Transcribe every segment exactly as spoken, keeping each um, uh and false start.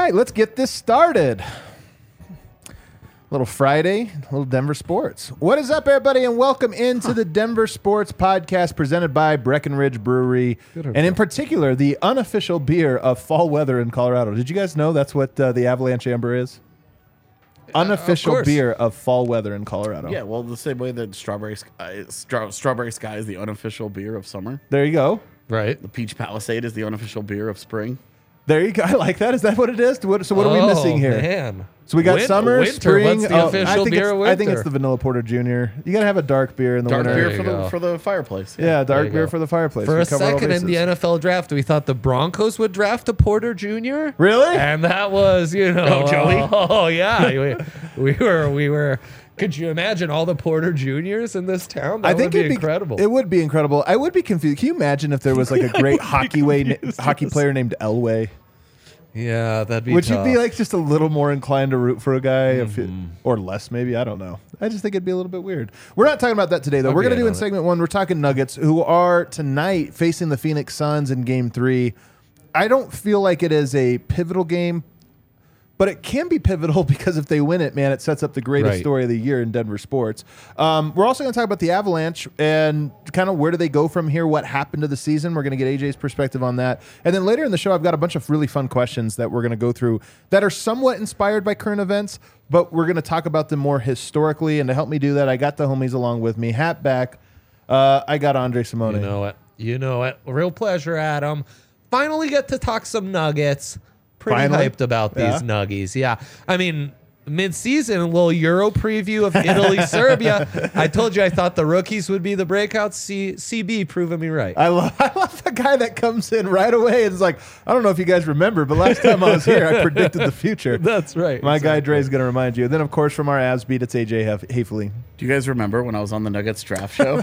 right, let's get this started. Little Friday, little Denver sports. What is up, everybody, and welcome into the Denver Sports Podcast presented by Breckenridge Brewery, and in particular, the unofficial beer of fall weather in Colorado. Did you guys know that's what uh, the Avalanche Amber is? Unofficial uh, of beer of fall weather in Colorado. Yeah, well, the same way that Strawberry Sky, Stra- Strawberry Sky is the unofficial beer of summer. There you go. Right. The Peach Palisade is the unofficial beer of spring. There you go. I like that. Is that what it is? What, so what are we Oh, missing here? Man. So we got Win- summer, winter. spring. What's the oh, official I think beer it's, of I think it's winter? the Vanilla Porter Junior You got to have a dark beer in the Dark winter. beer There for you the go. for the fireplace. Yeah, dark you beer go. for the fireplace. For We a cover all second in the bases. N F L draft, we thought the Broncos would draft a Porter Junior Really? And that was, you know, Oh, Joey? Oh, yeah. we, we were, we were. Could you imagine all the Porter Juniors in this town? That I think would be it'd incredible. It would be incredible. I would be confused. Can you imagine if there was like a great hockey way hockey player named Elway? yeah, that'd be. Would tough. you be like just a little more inclined to root for a guy, if it, Mm-hmm. or less maybe? I don't know. I just think it'd be a little bit weird. We're not talking about that today, though. I'd We're be going to in do in on it. segment one. We're talking Nuggets, who are tonight facing the Phoenix Suns in Game Three. I don't feel like it is a pivotal game, but it can be pivotal because if they win it, man, it sets up the greatest Right. story of the year in Denver sports. Um, we're also going to talk about the Avalanche and kind of where do they go from here, what happened to the season. We're going to get A J's perspective on that. And then later in the show, I've got a bunch of really fun questions that we're going to go through that are somewhat inspired by current events, but we're going to talk about them more historically. And to help me do that, I got the homies along with me. Hat back. Uh, I got Andre Simone. You know it. You know it. Real pleasure, Adam. Finally get to talk some Nuggets. Pretty Finally? hyped about these Yeah. Nuggies. Yeah. I mean, mid-season, a little Euro preview of Italy, Serbia. I told you I thought the rookies would be the breakout. C- CB proving me right. I love, I love the guy that comes in right away and is like, I don't know if you guys remember, but last time I was here, I predicted the future. That's right. My guy Exactly. Dre's going to remind you. Then, of course, from our Avs beat, it's A J Haf- Hafley. Do you guys remember when I was on the Nuggets draft show?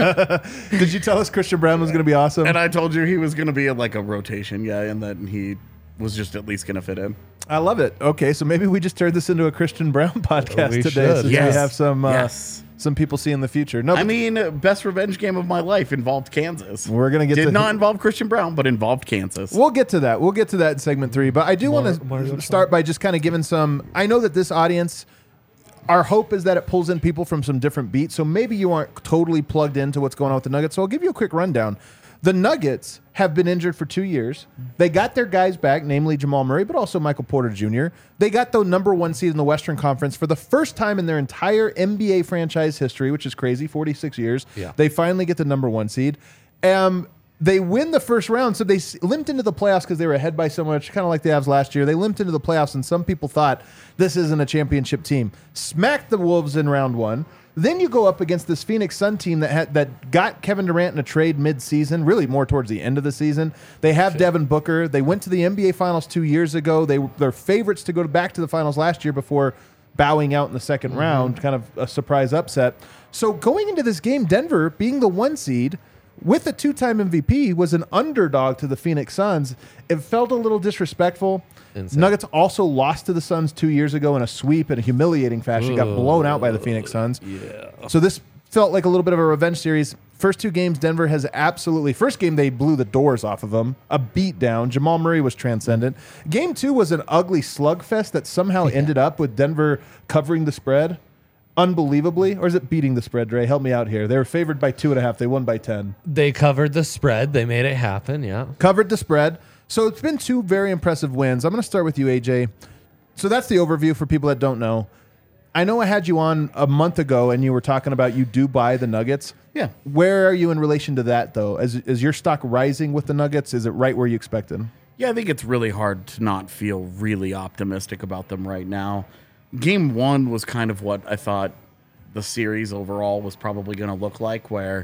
Did you tell us Christian Brown was going to be awesome? And I told you he was going to be like a rotation guy and that he was just at least going to fit in. I love it. Okay, so maybe we just turned this into a Christian Brown podcast We today, should. since Yes. we have some uh, Yes. some people seeing the future. No, I but mean, uh, best revenge game of my life involved Kansas. we're gonna get Did to not involve Christian Brown, but involved Kansas. We'll get to that. We'll get to that in segment three. But I do Mar- want Mario to start by just kind of giving some. I know that this audience, our hope is that it pulls in people from some different beats. So maybe you aren't totally plugged into what's going on with the Nuggets. So I'll give you a quick rundown. The Nuggets have been injured for two years. They got their guys back, namely Jamal Murray, but also Michael Porter Junior They got the number one seed in the Western Conference for the first time in their entire N B A franchise history, which is crazy, forty-six years. Yeah. They finally get the number one seed. Um, they win the first round, so they s- limped into the playoffs because they were ahead by so much, kind of like the Avs last year. They limped into the playoffs, and some people thought this isn't a championship team. Smacked the Wolves in round one. Then you go up against this Phoenix Sun team that had, that got Kevin Durant in a trade mid-season, really more towards the end of the season. They have Devin Booker. They went to the N B A Finals two years ago. They they're favorites to go back to the finals last year before bowing out in the second round, kind of a surprise upset. So going into this game, Denver being the one seed with a two-time M V P was an underdog to the Phoenix Suns. It felt a little disrespectful. Insane. Nuggets also lost to the Suns two years ago in a sweep in a humiliating fashion. Got blown out by the Phoenix Suns. Yeah. So this felt like a little bit of a revenge series. First two games, Denver has absolutely... First game, they blew the doors off of them. A beatdown. Jamal Murray was transcendent. Game two was an ugly slugfest that somehow ended up with Denver covering the spread. Unbelievably. Or is it beating the spread, Dre? Help me out here. They were favored by two and a half. They won by ten. They covered the spread. They made it happen. Yeah. Covered the spread. So it's been two very impressive wins. I'm going to start with you, A J. So that's the overview for people that don't know. I know I had you on a month ago, and you were talking about you do buy the Nuggets. Yeah. Where are you in relation to that, though? Is, is your stock rising with the Nuggets? Is it right where you expected? Yeah, I think it's really hard to not feel really optimistic about them right now. Game one was kind of what I thought the series overall was probably going to look like, where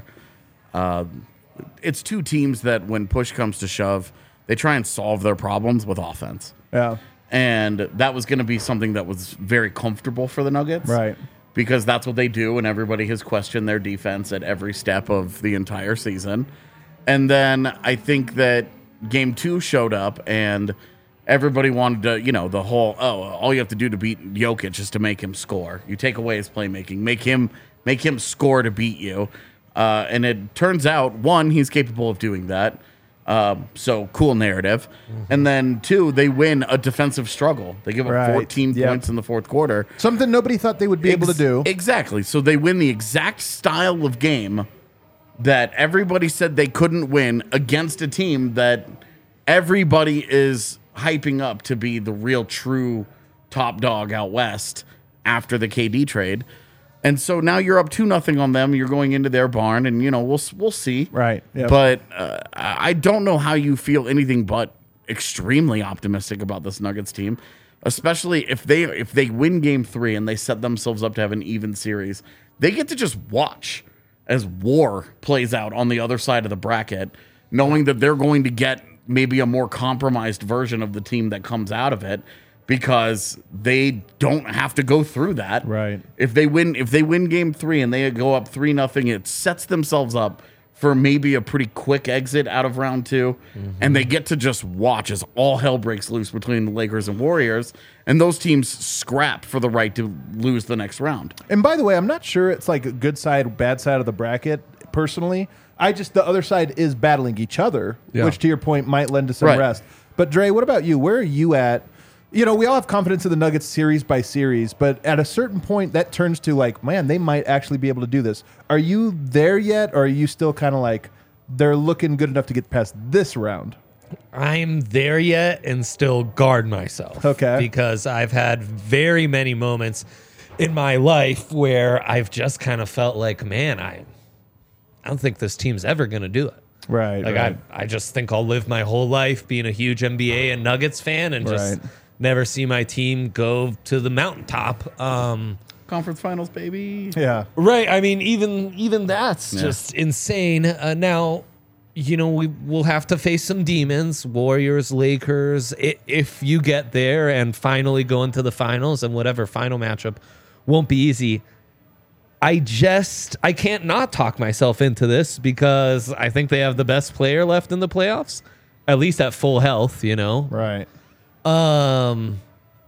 uh, it's two teams that when push comes to shove, they try and solve their problems with offense. Yeah. And that was going to be something that was very comfortable for the Nuggets. Right. Because that's what they do, and everybody has questioned their defense at every step of the entire season. And then I think that game two showed up, and everybody wanted to, you know, the whole, oh, all you have to do to beat Jokic is to make him score. You take away his playmaking, make him make him score to beat you. Uh, and it turns out, one, he's capable of doing that. Um, so cool narrative. Mm-hmm. And then two, they win a defensive struggle. They give up Right. fourteen Yep. points in the fourth quarter. Something nobody thought they would be able to Ex- do. Exactly. So they win the exact style of game that everybody said they couldn't win against a team that everybody is hyping up to be the real true top dog out west after the K D trade. And so now you're up two nothing on them. You're going into their barn, and you know we'll we'll see. Right. Yep. But uh, I I don't know how you feel anything but extremely optimistic about this Nuggets team, especially if they if they win Game Three and they set themselves up to have an even series. They get to just watch as war plays out on the other side of the bracket, knowing that they're going to get maybe a more compromised version of the team that comes out of it, because they don't have to go through that. Right. If they win, if they win Game Three and they go up three nothing, it sets themselves up for maybe a pretty quick exit out of round two, mm-hmm. and they get to just watch as all hell breaks loose between the Lakers and Warriors, and those teams scrap for the right to lose the next round. And by the way, I'm not sure it's like a good side, bad side of the bracket. Personally, I just the other side is battling each other, Yeah. which to your point might lend to some Right. rest. But Dre, what about you? Where are you at? You know, we all have confidence in the Nuggets series by series, but at a certain point, that turns to like, man, they might actually be able to do this. Are you there yet, or are you still kind of like they're looking good enough to get past this round? I'm there yet and still guard myself. Okay. Because I've had very many moments in my life where I've just kind of felt like, man, I, I don't think this team's ever going to do it. Right. Like right. I, I just think I'll live my whole life being a huge N B A and Nuggets fan and just Right. never see my team go to the mountaintop. Um, Conference Finals, baby. yeah. right. I mean, even even that's Yeah. just insane. Uh, now, you know, we will have to face some demons, Warriors, Lakers. I, if you get there and finally go into the finals, and whatever final matchup won't be easy. I just I can't not talk myself into this because I think they have the best player left in the playoffs, at least at full health, you know. Right. Um,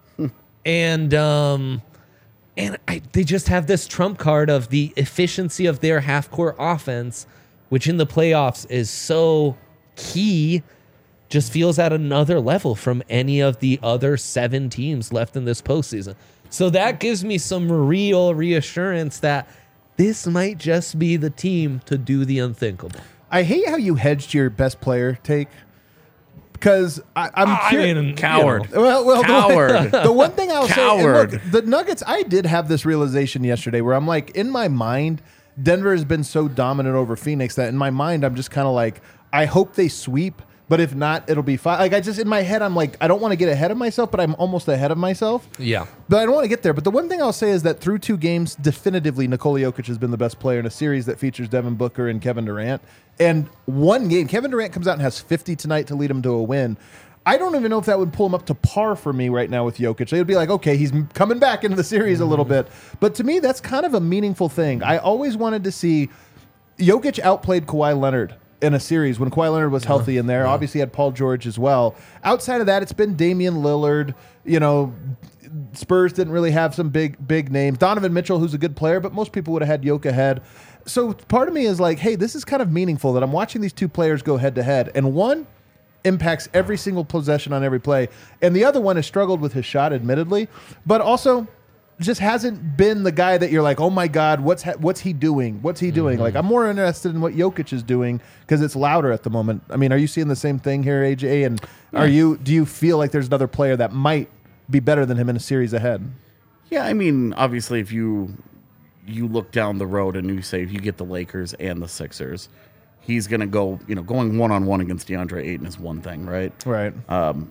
and um, and I, they just have this trump card of the efficiency of their half court offense, which in the playoffs is so key. Just feels at another level from any of the other seven teams left in this postseason. So that gives me some real reassurance that this might just be the team to do the unthinkable. I hate how you hedged your best player take because I, I'm I curi- mean, Coward. you know, Well, well, Coward. The, the one thing I'll say, Coward. and look, the Nuggets. I did have this realization yesterday where I'm like, in my mind, Denver has been so dominant over Phoenix that in my mind, I'm just kind of like, I hope they sweep, but if not, it'll be fine. Like I just in my head, I'm like, I don't want to get ahead of myself, but I'm almost ahead of myself. yeah. But I don't want to get there. But the one thing I'll say is that through two games, definitively Nikola Jokic has been the best player in a series that features Devin Booker and Kevin Durant. And one game, Kevin Durant comes out and has fifty tonight to lead him to a win. I don't even know if that would pull him up to par for me right now with Jokic. It would be like, okay, he's coming back into the series a little bit. But to me, that's kind of a meaningful thing. I always wanted to see Jokic outplayed Kawhi Leonard in a series when Kawhi Leonard was healthy in there. Yeah. Obviously had Paul George as well. Outside of that, it's been Damian Lillard. You know, Spurs didn't really have some big, big names. Donovan Mitchell, who's a good player, but most people would have had Jokic ahead. So part of me is like, hey, this is kind of meaningful that I'm watching these two players go head to head. And one impacts every single possession on every play. And the other one has struggled with his shot, admittedly, but also just hasn't been the guy that you're like, oh my God, what's ha- what's he doing? What's he doing? Mm-hmm. Like, I'm more interested in what Jokic is doing because it's louder at the moment. I mean, are you seeing the same thing here, A J? And yeah. are you do you feel like there's another player that might be better than him in a series ahead? Yeah, I mean, obviously, if you you look down the road and you say if you get the Lakers and the Sixers, he's going to go, you know, going one on one against DeAndre Ayton is one thing, right? Right. Um,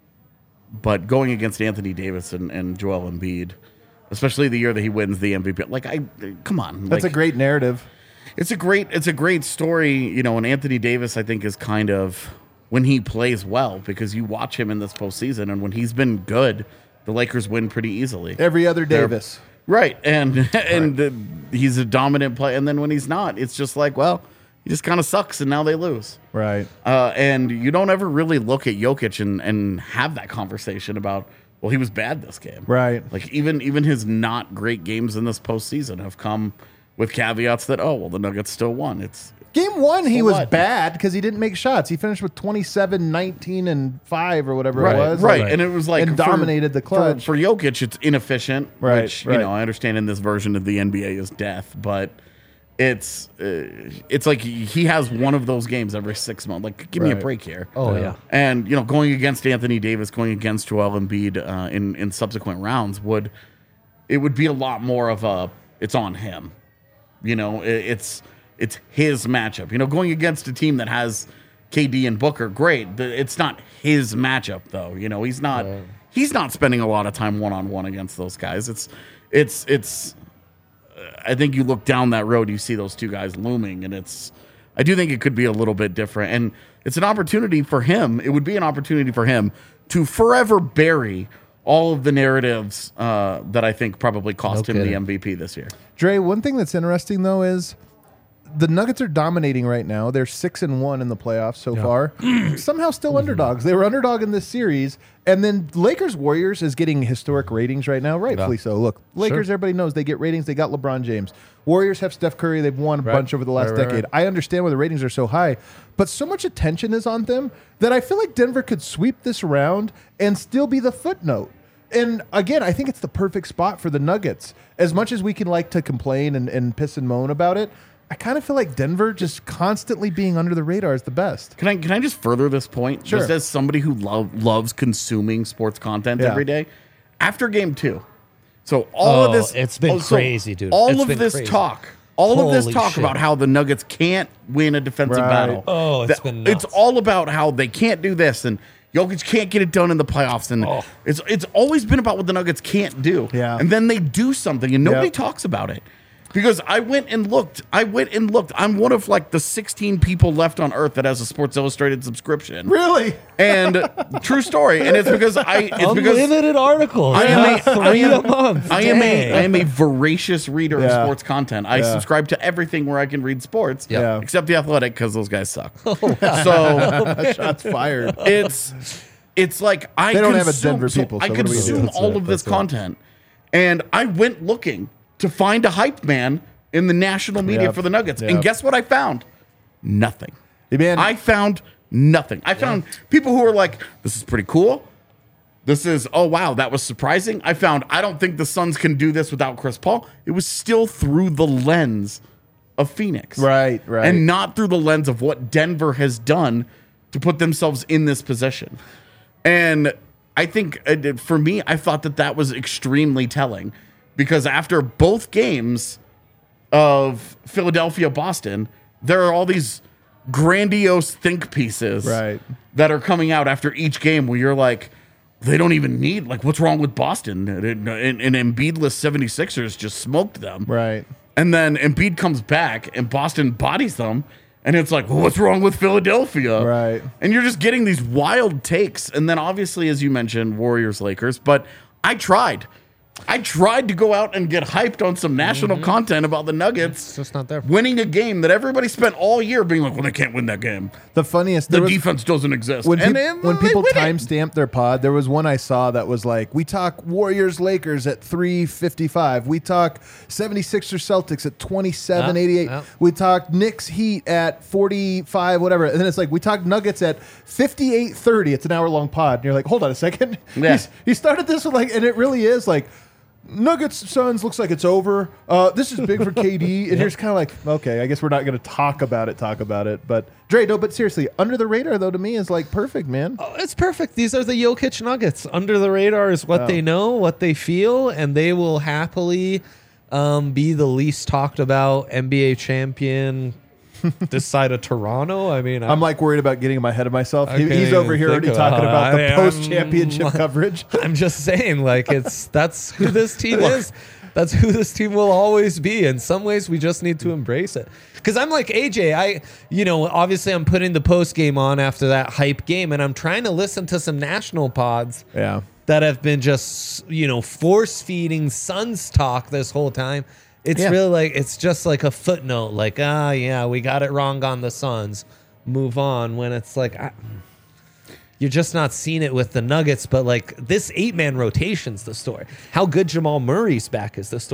but going against Anthony Davis and, and Joel Embiid, especially the year that he wins the M V P, like I come on, that's like, a great narrative. It's a great, it's a great story, you know. And Anthony Davis, I think, is kind of when he plays well because you watch him in this postseason, and when he's been good, the Lakers win pretty easily. Every other Davis, They're, right? And and right. The, he's a dominant player, and then when he's not, it's just like, well, he just kind of sucks, and now they lose. Right. Uh, and you don't ever really look at Jokic and and have that conversation about, well, he was bad this game. Right. Like even even his not great games in this postseason have come with caveats that, oh, well, the Nuggets still won. It's Game one, he So was what? bad because he didn't make shots. He finished with twenty-seven, nineteen, and five or whatever Right, it was. right. Like, And it was like and for- dominated the for- clutch. For, Jokic, it's inefficient, Right, which right. you know I understand in this version of the N B A is death, but it's uh, it's like he he has one of those games every six months. Like, give me a Right. break here. Oh, yeah. And you know, going against Anthony Davis, going against Joel Embiid uh, in in subsequent rounds would it would be a lot more of a it's on him. You know, it, it's it's his matchup. You know, going against a team that has K D and Booker, great. The- It's not his matchup though. You know, he's not he's not spending a lot of time one on one against those guys. It's it's it's. I think you look down that road, you see those two guys looming, and it's. I do think it could be a little bit different, and it's an opportunity for him. It would be an opportunity for him to forever bury all of the narratives uh, that I think probably cost No him the kidding. M V P this year. Dre, one thing that's interesting though is the Nuggets are dominating right now. They're six and one in the playoffs so far. Somehow still underdogs. They were underdog in this series, and then Lakers Warriors is getting historic ratings right now, rightfully so. Look, Lakers, everybody knows they get ratings. They got LeBron James. Warriors have Steph Curry. They've won a bunch over the last Right, right, decade. right. I understand why the ratings are so high, but so much attention is on them that I feel like Denver could sweep this round and still be the footnote. And again, I think it's the perfect spot for the Nuggets. As much as we can like to complain and, and piss and moan about it, I kind of feel like Denver just constantly being under the radar is the best. Can I can I just further this point? Sure. Just as somebody who love, loves consuming sports content Yeah. every day, after game two, so all of Oh, this it's been oh, so crazy, dude. All It's of been this crazy. talk, all of this Holy talk shit. about how the Nuggets can't win a defensive Right. battle. Oh, it's That- been it's nuts. all about how they can't do this and Jokic can't get it done in the playoffs, and Oh. it's it's always been about what the Nuggets can't do. Yeah. And then they do something, and nobody Yep. talks about it. Because I went and looked. I went and looked. I'm one of like the sixteen people left on Earth that has a Sports Illustrated subscription. Really? And true story. And it's because I it's because Unlimited articles. I am a, Not I three am, a month. I am a Dang. I am a voracious reader of Yeah. sports content. I Yeah. subscribe to everything where I can read sports, Yeah. except the Athletic because those guys suck. Oh, So Shots fired. it's it's like I They don't have a consume- Denver so people, so I what do we do? consume That's all it, of this that's it. content, and I went looking to find a hype man in the national media Yep. for the Nuggets, Yep. and guess what I found? Nothing. Hey, man. I found nothing. I found people who were like, "This is pretty cool." This is, oh wow, that was surprising. I found I don't think the Suns can do this without Chris Paul. It was still through the lens of Phoenix. Right, right. And not through the lens of what Denver has done to put themselves in this position. And I think uh, for me, I thought that that was extremely telling because after both games of Philadelphia, Boston, there are all these grandiose think pieces Right. that are coming out after each game where you're like, they don't even need, like, what's wrong with Boston? And, and, and Embiidless seventy-sixers just smoked them. Right. And then Embiid comes back and Boston bodies them. And it's like, well, what's wrong with Philadelphia? Right. And you're just getting these wild takes. And then obviously, as you mentioned, Warriors, Lakers. But I tried. I tried to go out and get hyped on some national content about the Nuggets It's just not there. winning a game that everybody spent all year being like, well, they can't win that game. The funniest The there was- defense doesn't exist. when, and peop- then when they people win it. timestamp their pod, there was one I saw that was like, we talk Warriors Lakers at three fifty-five. We talk seventy-sixers Celtics at twenty-seven eighty-eight. Yeah, yeah. We talk Knicks Heat at forty-five, whatever. And then it's like, we talk Nuggets at fifty-eight thirty. It's an hour long pod. And you're like, hold on a second. Yeah. He's- he started this with like, and it really is like, Nuggets Suns looks like it's over. Uh, this is big for K D, and you're just kind of like, okay, I guess we're not going to talk about it, talk about it. But Dre, no, but seriously, under the radar though to me is like perfect, man. Oh, it's perfect. These are the Jokic Nuggets. Under the radar is what they know, what they feel, and they will happily um, be the least talked about N B A champion this side of Toronto. I mean, I'm like worried about getting in my head of myself. I He, can't he's even over here think already about talking it. about the I am- post-championship coverage. I'm just saying, like, it's that's who this team is. That's who this team will always be. In some ways, we just need to embrace it. Because I'm like A J, I, you know, obviously I'm putting the post game on after that hype game, and I'm trying to listen to some national pods Yeah. that have been just, you know, force feeding Suns talk this whole time. It's Yeah. really like, it's just like a footnote, like, ah, yeah, we got it wrong on the Suns. Move on. When it's like, I, you're just not seeing it with the Nuggets, but like this eight man rotation's the story. How good Jamal Murray's back is the story.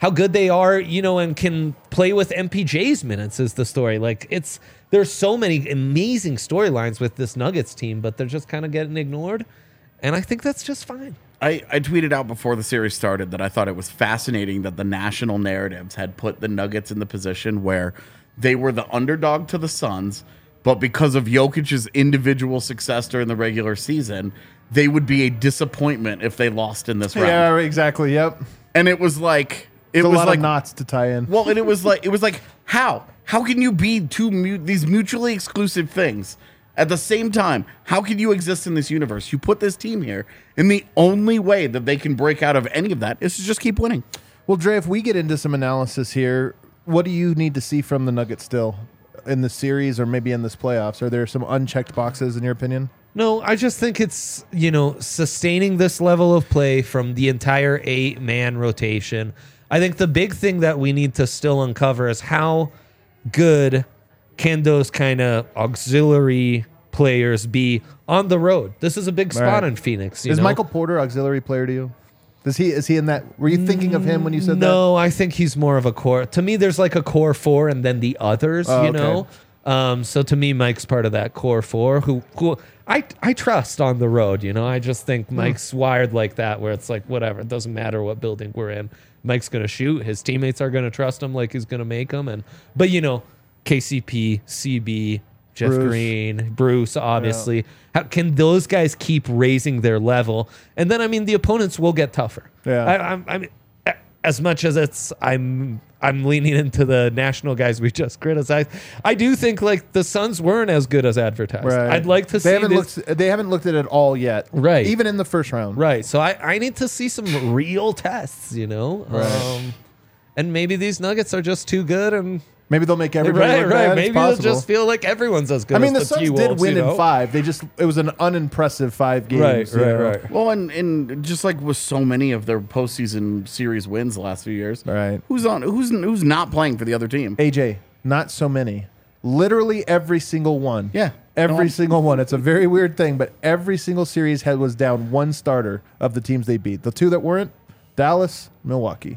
how good they are, you know, and can play with M P J's minutes is the story. Like it's there's so many amazing storylines with this Nuggets team, but they're just kind of getting ignored. And I think that's just fine. I, I tweeted out before the series started that I thought it was fascinating that the national narratives had put the Nuggets in the position where they were the underdog to the Suns, but because of Jokic's individual success during the regular season, they would be a disappointment if they lost in this round. Yeah, exactly. Yep. And it was like it It's a was lot like of knots to tie in. well, and it was like it was like how how can you be two mu- these mutually exclusive things at the same time? How can you exist in this universe? You put this team here, and the only way that they can break out of any of that is to just keep winning. Well, Dre, if we get into some analysis here, what do you need to see from the Nuggets still in the series or maybe in this playoffs? Are there some unchecked boxes in your opinion? No, I just think it's, you know, sustaining this level of play from the entire eight-man rotation. I think the big thing that we need to still uncover is how good can those kind of auxiliary players be on the road. This is a big spot Right. in Phoenix. You Is know? Michael Porter auxiliary player to you? Does he is he in that? Were you thinking of him when you said that? No, I think he's more of a core. To me, there's like a core four and then the others, Oh, you okay. know? Um, so to me, Mike's part of that core four who, who I, I trust on the road, you know? I just think Mike's wired like that where it's like, whatever, it doesn't matter what building we're in. Mike's going to shoot. His teammates are going to trust him like he's going to make them. And, but, you know, K C P, C B, Jeff Bruce. Green, Bruce, obviously. How can those guys keep raising their level? And then, I mean, the opponents will get tougher. Yeah. I, I'm, I'm, as much as it's, I'm, I'm leaning into the national guys we just criticized. I do think like the Suns weren't as good as advertised. Right. I'd like to they see haven't this. looked. They haven't looked at it all yet. Right. Even in the first round. Right. So I, I need to see some real tests, you know? Right. Um, and maybe these Nuggets are just too good and Maybe they'll make everybody right, look right. bad. Maybe It's they'll possible. just feel like everyone's as good I mean, as the the Suns did T-Wolves, win you know? in five. They just it was an unimpressive five games. Right, you right, know? right. Well, and, and just like with so many of their postseason series wins the last few years, Right. Who's on? Who's who's not playing for the other team? A J, not so many. Literally every single one. Yeah. Every No. single one. It's a very weird thing, but every single series had was down one starter of the teams they beat. The two that weren't, Dallas, Milwaukee.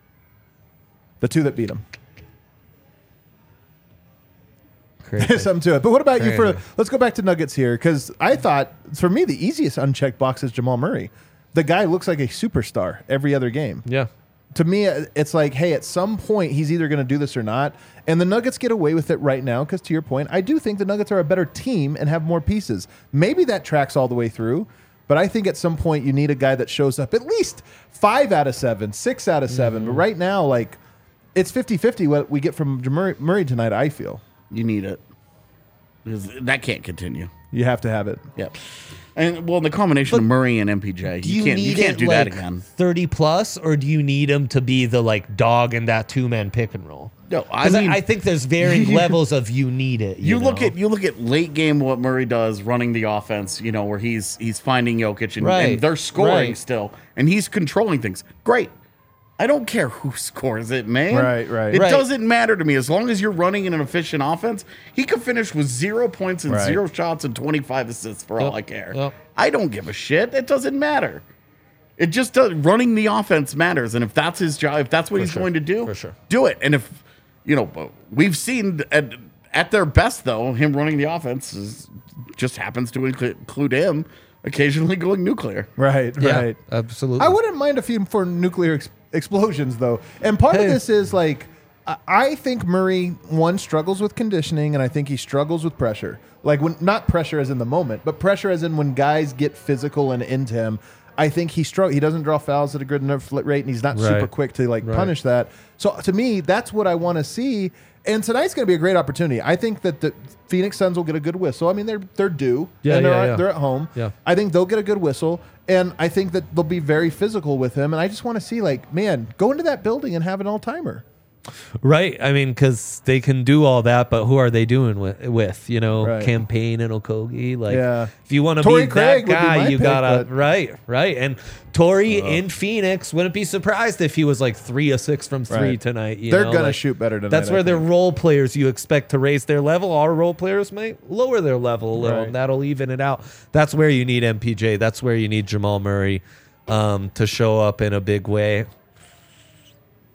The two that beat them. Crazy. There's something to it. But what about you for Crazy. let's go back to Nuggets here, because I thought for me the easiest unchecked box is Jamal Murray. The guy looks like a superstar every other game. Yeah. To me, it's like, hey, at some point he's either going to do this or not. And the Nuggets get away with it right now because, to your point, I do think the Nuggets are a better team and have more pieces. Maybe that tracks all the way through, but I think at some point you need a guy that shows up at least five out of seven, six out of seven. Mm-hmm. But right now, like, it's fifty-fifty what we get from Murray, Murray tonight, I feel. You need it because that can't continue. You have to have it. Yep. And well, the combination of Murray and M P J, Do you, can't you can't it, do like, that again. thirty plus, or do you need him to be the like dog in that two man pick and roll? No, I 'Cause mean- I think there's varying levels of you need it. You, You look know? at you look at late game what Murray does running the offense, you know, where he's he's finding Jokic and, Right, and they're scoring right. still, and he's controlling things. Great. I don't care who scores it, man. Right, right. It Right. doesn't matter to me as long as you're running an efficient offense. He could finish with zero points and Right. zero shots and twenty-five assists for all Yep, I care. yep. I don't give a shit. It doesn't matter. It just does. Running the offense matters, and if that's his job, if that's what he's sure, going to do, for sure. do it. And if you know, we've seen at, at their best though, him running the offense is, just happens to include include him occasionally going nuclear. Right, Yeah, right. absolutely. I wouldn't mind a few for nuclear ex- explosions, though. And part Hey. of this is like, I- I think Murray, one, struggles with conditioning, and I think he struggles with pressure. Like, when not pressure as in the moment, but pressure as in when guys get physical and into him. I think he strugg- He doesn't draw fouls at a good enough rate, and he's not super Right. quick to like Right. punish that. So to me, that's what I want to see. And tonight's going to be a great opportunity. I think that the Phoenix Suns will get a good whistle. I mean, they're they're due, Yeah, and they're yeah, at, yeah. they're at home. Yeah. I think they'll get a good whistle, and I think that they'll be very physical with him. And I just want to see, like, man, go into that building and have an all timer. Right. I mean, because they can do all that, but who are they doing with? with you know, Right. Campaign and Okogie. Like, Yeah. if you want to Torrey be Craig that would be guy, my you pick, gotta but- right, right. And Torrey in Phoenix, wouldn't be surprised if he was like three or six from three Right. tonight. You They're know? gonna Like, shoot better tonight. That's I where their think. role players you expect to raise their level. Our role players might lower their level a little, Right. and that'll even it out. That's where you need M P J. That's where you need Jamal Murray um, to show up in a big way.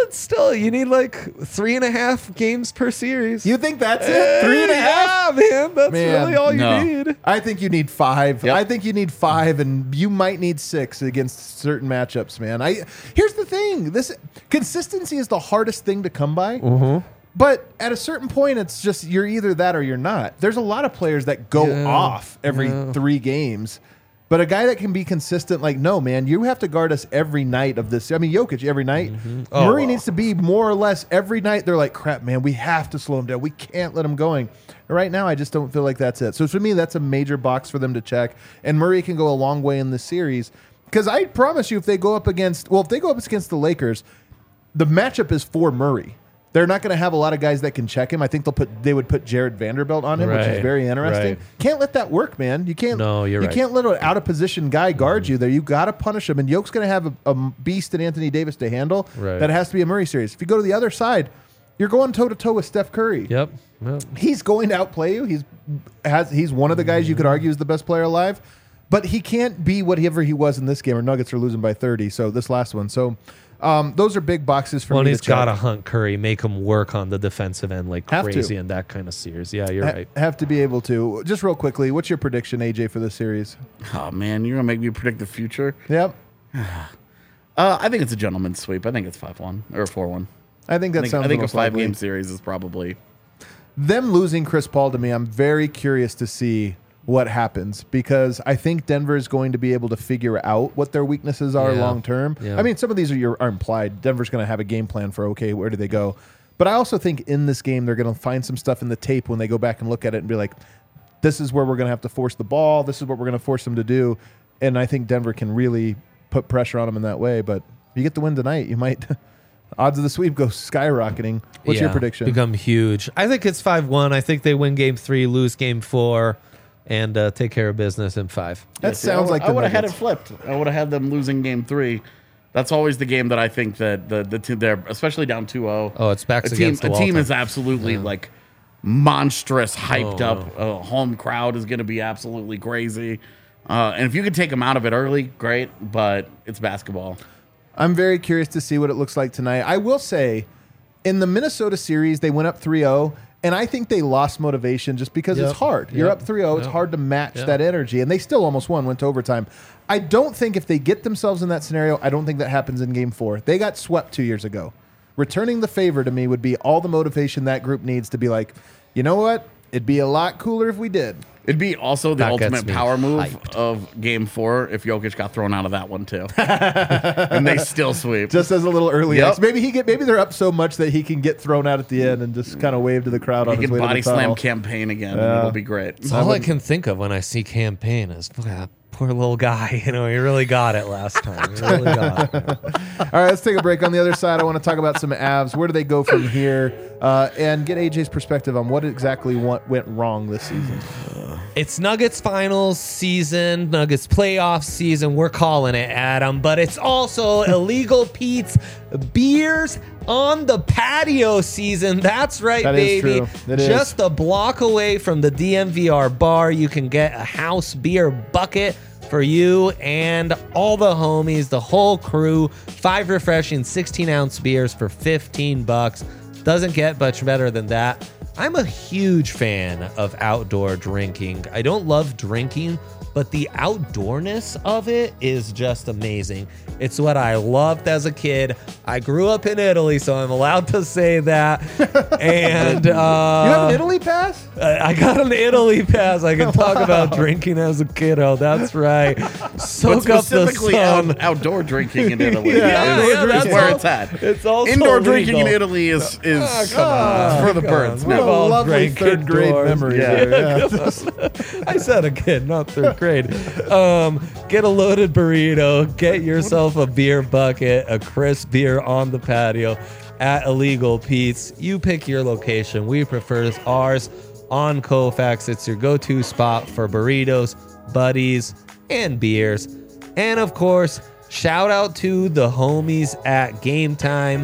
but still, you need like three and a half games per series. You think that's it? Three and a half? Yeah, man. That's Man, really all you no. need. I think you need five. Yep. I think you need five, and you might need six against certain matchups, man. I here's the thing: this consistency is the hardest thing to come by. Mm-hmm. But at a certain point, it's just you're either that or you're not. There's a lot of players that go Yeah, off every yeah. three games. But a guy that can be consistent, like, no, man, you have to guard us every night of this. I mean, Jokic every night. Oh, Murray well. needs to be more or less every night. They're like, crap, man, we have to slow him down. We can't let him going. Right now, I just don't feel like that's it. So for me, that's a major box for them to check. And Murray can go a long way in this series. Because I promise you, if they go up against, well, if they go up against the Lakers, the matchup is for Murray. They're not going to have a lot of guys that can check him. I think they'll put they would put Jared Vanderbilt on him, which is Right, very interesting. right. Can't let that work, man. You can't. No, you're you right. can't let an out of position guy guard you there. You got to punish him. And Yoke's going to have a, a beast in Anthony Davis to handle. Right. That has to be a Murray series. If you go to the other side, you're going toe to toe with Steph Curry. Yep. yep. He's going to outplay you. He's has he's one of the guys you could argue is the best player alive, but he can't be whatever he was in this game. Or Nuggets are losing by thirty. So this last one. So. Um, those are big boxes for Well, and me. he's to check. got to hunt Curry, make him work on the defensive end like Have to. crazy in that kind of series. Yeah, you're Ha- right. Have to be able to. Just real quickly, what's your prediction, A J, for this series? Oh man, you're gonna make me predict the future. Yep. Uh, I think it's a gentleman's sweep. I think it's five one or four one. I think that I think, sounds I think the a most five likely. game series is probably. Them losing Chris Paul to me, I'm very curious to see what happens because I think Denver is going to be able to figure out what their weaknesses are Yeah. long term. Yeah. I mean, some of these are, your, are implied. Denver's going to have a game plan for, okay, where do they go? But I also think in this game, they're going to find some stuff in the tape when they go back and look at it and be like, this is where we're going to have to force the ball. This is what we're going to force them to do. And I think Denver can really put pressure on them in that way. But if you get the win tonight, you might... odds of the sweep go skyrocketing. What's your Yeah, prediction? Become huge. I think it's five one. I think they win game three, lose game four, and uh, take care of business in five. That See, sounds I, like I the would have had it Nuggets. flipped. I would have had them losing game three. That's always the game that I think that the the team they're especially down two oh. Oh, it's backs a team. against the A wall team time. is absolutely like monstrous, hyped Oh, up. A home crowd is going to be absolutely crazy. Uh, and if you could take them out of it early, great. But it's basketball. I'm very curious to see what it looks like tonight. I will say, in the Minnesota series, they went up three oh, and I think they lost motivation just because Yep. it's hard. You're Yep. up three oh, it's Yep. hard to match Yep. that energy, and they still almost won, went to overtime. I don't think if they get themselves in that scenario, I don't think that happens in game four. They got swept two years ago. Returning the favor to me would be all the motivation that group needs to be like, you know what? It'd be a lot cooler if we did. It'd be also the That gets ultimate me power move hyped. of game four if Jokic got thrown out of that one too. And they still sweep. Just as a little early Yep. X. Maybe he get maybe they're up so much that he can get thrown out at the end and just kind of wave to the crowd on He his can way body to the slam tunnel. campaign again, Yeah. and it'll be great. It's all I can think of when I see campaign is look at that poor little guy. You know, he really got it last time. He really got it. All right, let's take a break. On the other side, I want to talk about some Avs. Where do they go from here? Uh, and get A J's perspective on what exactly went, went wrong this season. It's Nuggets finals season, Nuggets playoff season. We're calling it, Adam. But it's also Illegal Pete's beers on the patio season. That's right, That is baby. true. It is. Just a block away from the D M V R bar, you can get a house beer bucket for you and all the homies, the whole crew. Five refreshing sixteen ounce beers for fifteen bucks. Doesn't get much better than that. I'm a huge fan of outdoor drinking. I don't love drinking, but the outdoorness of it is just amazing. It's what I loved as a kid. I grew up in Italy, so I'm allowed to say that. And uh, You have an Italy pass? I I got an Italy pass. I can talk about drinking as a kiddo. That's right. But Soak up the specifically sun. out, outdoor drinking in Italy Yeah, is, yeah, is that's where all- it's at. it's also Indoor drinking in legal. Italy is is Ah, come on. for the Come birds. on. What a We've all lovely drank third grade indoors. memory Yeah. there. Yeah. I said a kid, not third grade. Um, get a loaded burrito, get yourself a beer bucket, a crisp beer on the patio at Illegal Pete's. You pick your location. We prefer ours on Koufax. It's your go-to spot for burritos, buddies, and beers. And of course, shout out to the homies at Game Time.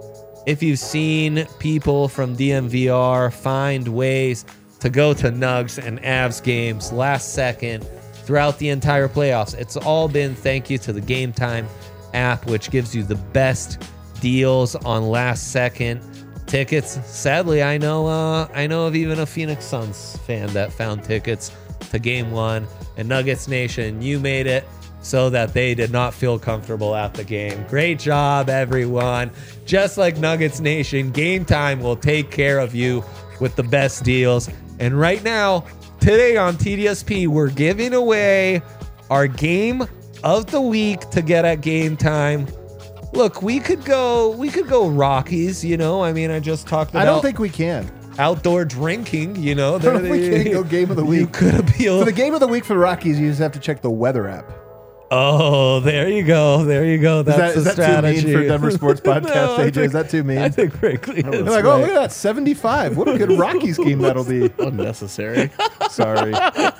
If you've seen people from D M V R find ways to go to Nugs and Avs games last second throughout the entire playoffs, it's all been thank you to the Game Time app, which gives you the best deals on last second tickets. Sadly, I know uh, I know of even a Phoenix Suns fan that found tickets to game one. And Nuggets Nation, you made it so that they did not feel comfortable at the game. Great job, everyone. Just like Nuggets Nation, Game Time will take care of you with the best deals. And right now, today on T D S P, we're giving away our game of the week to get at Game Time. Look, we could go we could go Rockies, you know. I mean, I just talked about I don't think we can. outdoor drinking, you know. I don't think we can go game of the You week. could appeal. For the game of the week for the Rockies, you just have to check the weather app. Oh, there you go. There you go. That's Is that, the is that strategy. too mean for Denver Sports Podcast, No, I A J? think- Is that too mean? I think frankly, it's They're like, oh, right. look at that, seventy-five. What a good Rockies game that'll be. Unnecessary. Sorry.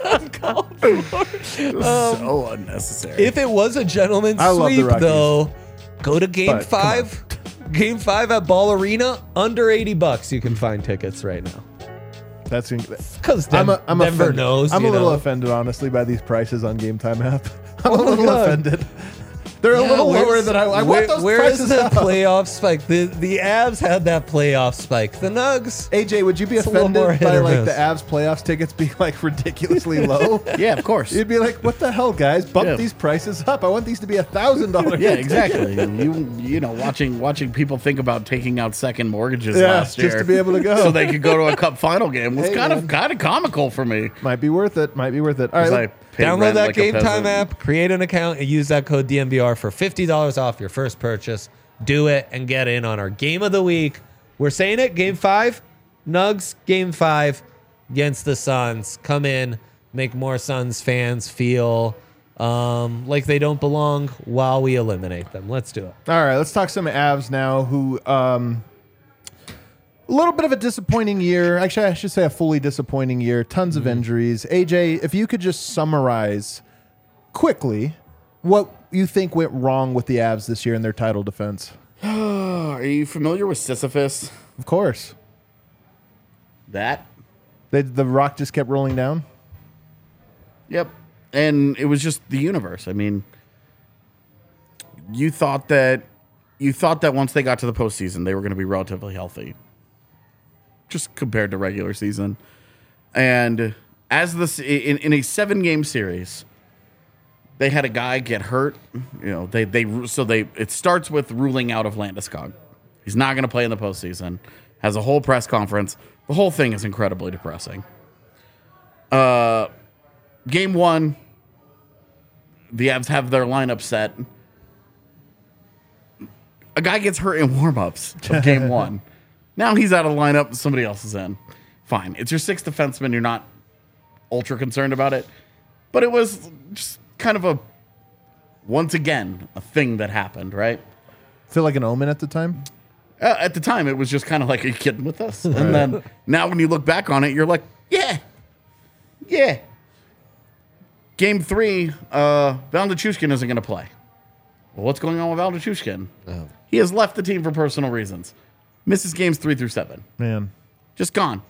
So unnecessary. If it was a gentleman's I love the sweep, Rockies. though, go to Game But, come on. Five. Game Five at Ball Arena, under eighty bucks. You can find tickets right now. That's Because I'm a, I'm Denver offended. knows. I'm you a little know. offended, honestly, by these prices on Game Time app. I'm Oh a my little God. offended. They're a Yeah, little where's- lower than I, I where- want those Where is prices the up. playoff spike? The the Avs had that playoff spike. The Nugs. A J, would you be It's a little more offended hit by or like miss. the Avs playoffs tickets being like ridiculously low? yeah, of course. You'd be like, what the hell, guys? Bump Yeah. these prices up. I want these to be a thousand dollars. Yeah, exactly. you you know, watching watching people think about taking out second mortgages Yeah, last year just to be able to go. so they could go to a cup final game was Hey, kind man. of kind of comical for me. Might be worth it. Might be worth it. All right. 'Cause I let- pay Download rent that like a Game Time peasant. app, create an account, and use that code D M V R for fifty dollars off your first purchase. Do it and get in on our Game of the Week. We're saying it, Game five, Nugs, Game five against the Suns. Come in, make more Suns fans feel um, like they don't belong while we eliminate them. Let's do it. All right, let's talk some Avs now who um a little bit of a disappointing year. Actually, I should say a fully disappointing year. Tons of injuries. A J, if you could just summarize quickly what you think went wrong with the Avs this year in their title defense. Are you familiar with Sisyphus? Of course. That? They, the rock just kept rolling down. Yep. And it was just the universe. I mean, you thought that you thought that once they got to the postseason, they were going to be relatively healthy, just compared to regular season. And as this in, in a seven game series, they had a guy get hurt. You know, they they so they it starts with ruling out of Landeskog. He's not going to play in the postseason. Has a whole press conference. The whole thing is incredibly depressing. Uh, game one, the Avs have their lineup set. A guy gets hurt in warmups of game one. Now he's out of the lineup. Somebody else is in. Fine. It's your sixth defenseman. You're not ultra concerned about it. But it was just kind of a, once again, a thing that happened, right? Feel like an omen at the time. Uh, at the time, it was just kind of like, are you kidding with us? And then now when you look back on it, you're like, yeah, yeah. Game three, uh, Valdichushkin isn't going to play. Well, what's going on with Valdichushkin? Oh. He has left the team for personal reasons. Misses games three through seven. Man. Just gone.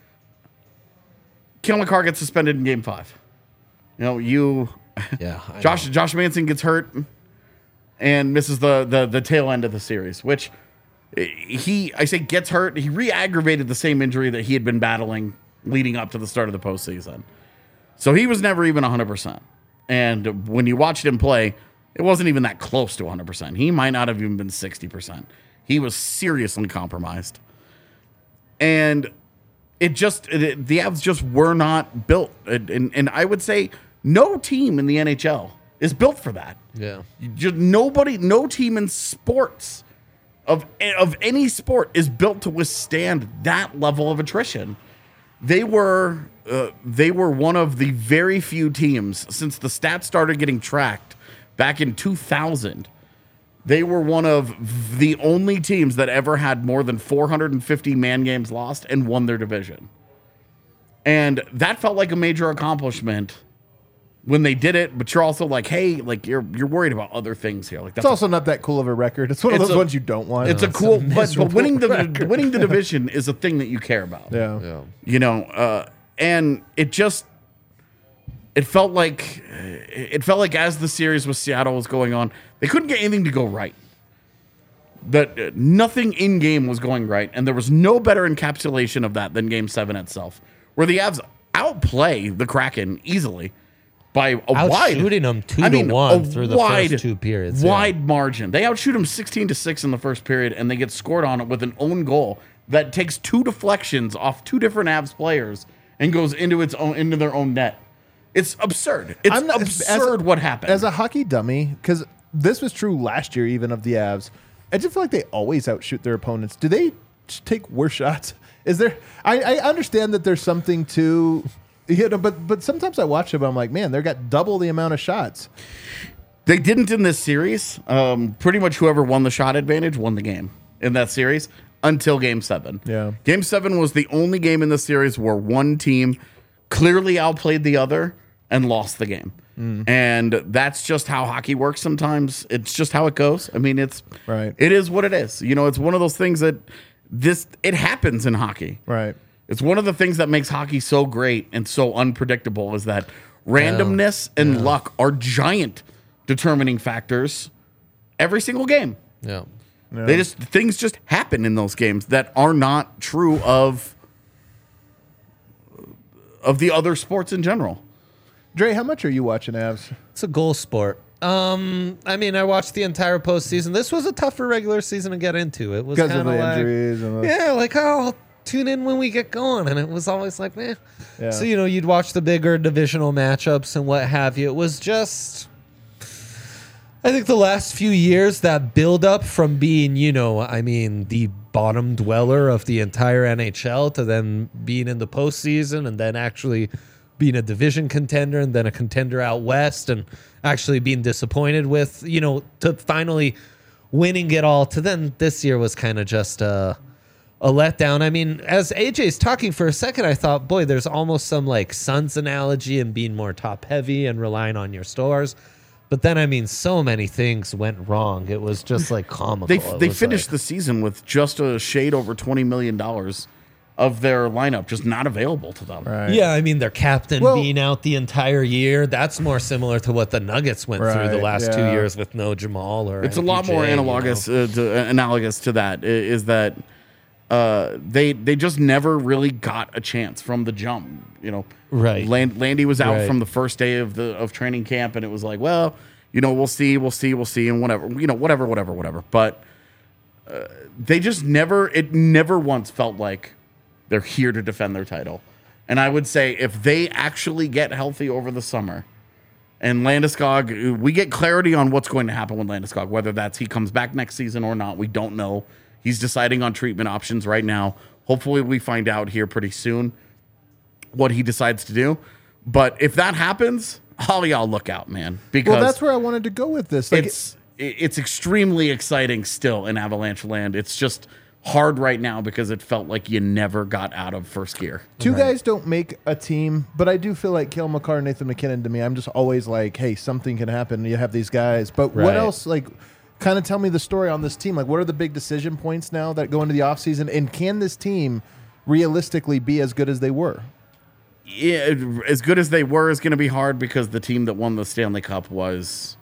Kale McCarr gets suspended in game five. You know, you, Yeah. I Josh know. Josh Manson gets hurt and misses the, the the tail end of the series, which he, I say gets hurt. He re-aggravated the same injury that he had been battling leading up to the start of the postseason. So he was never even one hundred percent. And when you watched him play, it wasn't even that close to one hundred percent. He might not have even been sixty percent. He was seriously compromised. And it just, it, the Avs just were not built. And, and, and I would say no team in the N H L is built for that. Yeah. You Just nobody, no team in sports of of any sport is built to withstand that level of attrition. They were uh, they were one of the very few teams since the stats started getting tracked back in two thousand. They were one of the only teams that ever had more than four hundred fifty man games lost and won their division. And that felt like a major accomplishment when they did it, but you're also like, hey, like you're you're worried about other things here. Like It's that's also not that cool of a record. It's one of It's those a- ones you don't want. it's a it's a cool, but, but miserable winning the record. winning the division is a thing that you care about. yeah. Yeah. You know, uh, and it just it felt like it felt like as the series with Seattle was going on, they couldn't get anything to go right. that uh, nothing in game was going right, and there was no better encapsulation of that than Game Seven itself, where the Avs outplay the Kraken easily by a wide, Outshooting them two I to mean, one a through the wide, first two periods. yeah. wide margin. They outshoot them sixteen to six in the first period, and they get scored on it with an own goal that takes two deflections off two different Avs players and goes into its own into their own net. It's absurd. It's I'm not- absurd as a- what happened. As a hockey dummy, because this was true last year, even of the Avs. I just feel like they always outshoot their opponents. Do they just take worse shots? Is there? I, I understand that there's something to, you know, but but sometimes I watch them. I'm like, man, they got double the amount of shots. They didn't in this series. Um, pretty much whoever won the shot advantage won the game in that series until Game Seven. Yeah. Game Seven was the only game in the series where one team clearly outplayed the other and lost the game. Mm. And that's just how hockey works sometimes. It's just how it goes. I mean, it's Right. It is what it is. You know, it's one of those things that this it happens in hockey. Right. It's one of the things that makes hockey so great and so unpredictable is that randomness and Yeah. luck are giant determining factors every single game. Yeah. Yeah. They just things just happen in those games that are not true of of the other sports in general. Dre, how much are you watching Avs? It's a goal sport. Um, I mean, I watched the entire postseason. This was a tougher regular season to get into. It was Because of kind the of like, injuries and the, yeah, like, oh, I'll tune in when we get going. And it was always like, meh. Yeah. So, you know, you'd watch the bigger divisional matchups and what have you. It was just, I think the last few years, that build up from being, you know, I mean, the bottom dweller of the entire N H L to then being in the postseason and then actually being a division contender and then a contender out west and actually being disappointed with, you know, to finally winning it all to then this year was kind of just a, a letdown. I mean, as A J's talking for a second, I thought, boy, there's almost some like Suns analogy and being more top heavy and relying on your stars. But then, I mean, so many things went wrong. It was just like comical. They It they was finished like- the season with just a shade over twenty million dollars of their lineup just not available to them. right. Yeah, I mean, their captain Well- being out the entire year, that's more similar to what the Nuggets went through the Right, last two yeah. years with no Jamal or It's a lot more M P J, you know? analogous uh, to, uh, analogous to that i- is that uh, they they just never really got a chance from the jump. You know, Right. Land, Landy was out Right. from the first day of the of training camp, and it was like, well, you know, we'll see, we'll see, we'll see, and whatever, you know, whatever, whatever, whatever. But uh, they just never, it never once felt like they're here to defend their title. And I would say if they actually get healthy over the summer, and Landeskog, we get clarity on what's going to happen with Landeskog, whether that's he comes back next season or not. We don't know. He's deciding on treatment options right now. Hopefully we find out here pretty soon what he decides to do. But if that happens, all y'all look out, man. Because Well, that's where I wanted to go with this. Like, it's it's extremely exciting still in Avalanche land. It's just hard right now because it felt like you never got out of first gear. two guys don't make a team, but I do feel like Cale Makar and Nathan McKinnon to me. I'm just always like, hey, something can happen. You have these guys. But what Right. else, like, kind of tell me the story on this team. Like, what are the big decision points now that go into the offseason? And can this team realistically be as good as they were? Yeah, as good as they were is going to be hard because the team that won the Stanley Cup was,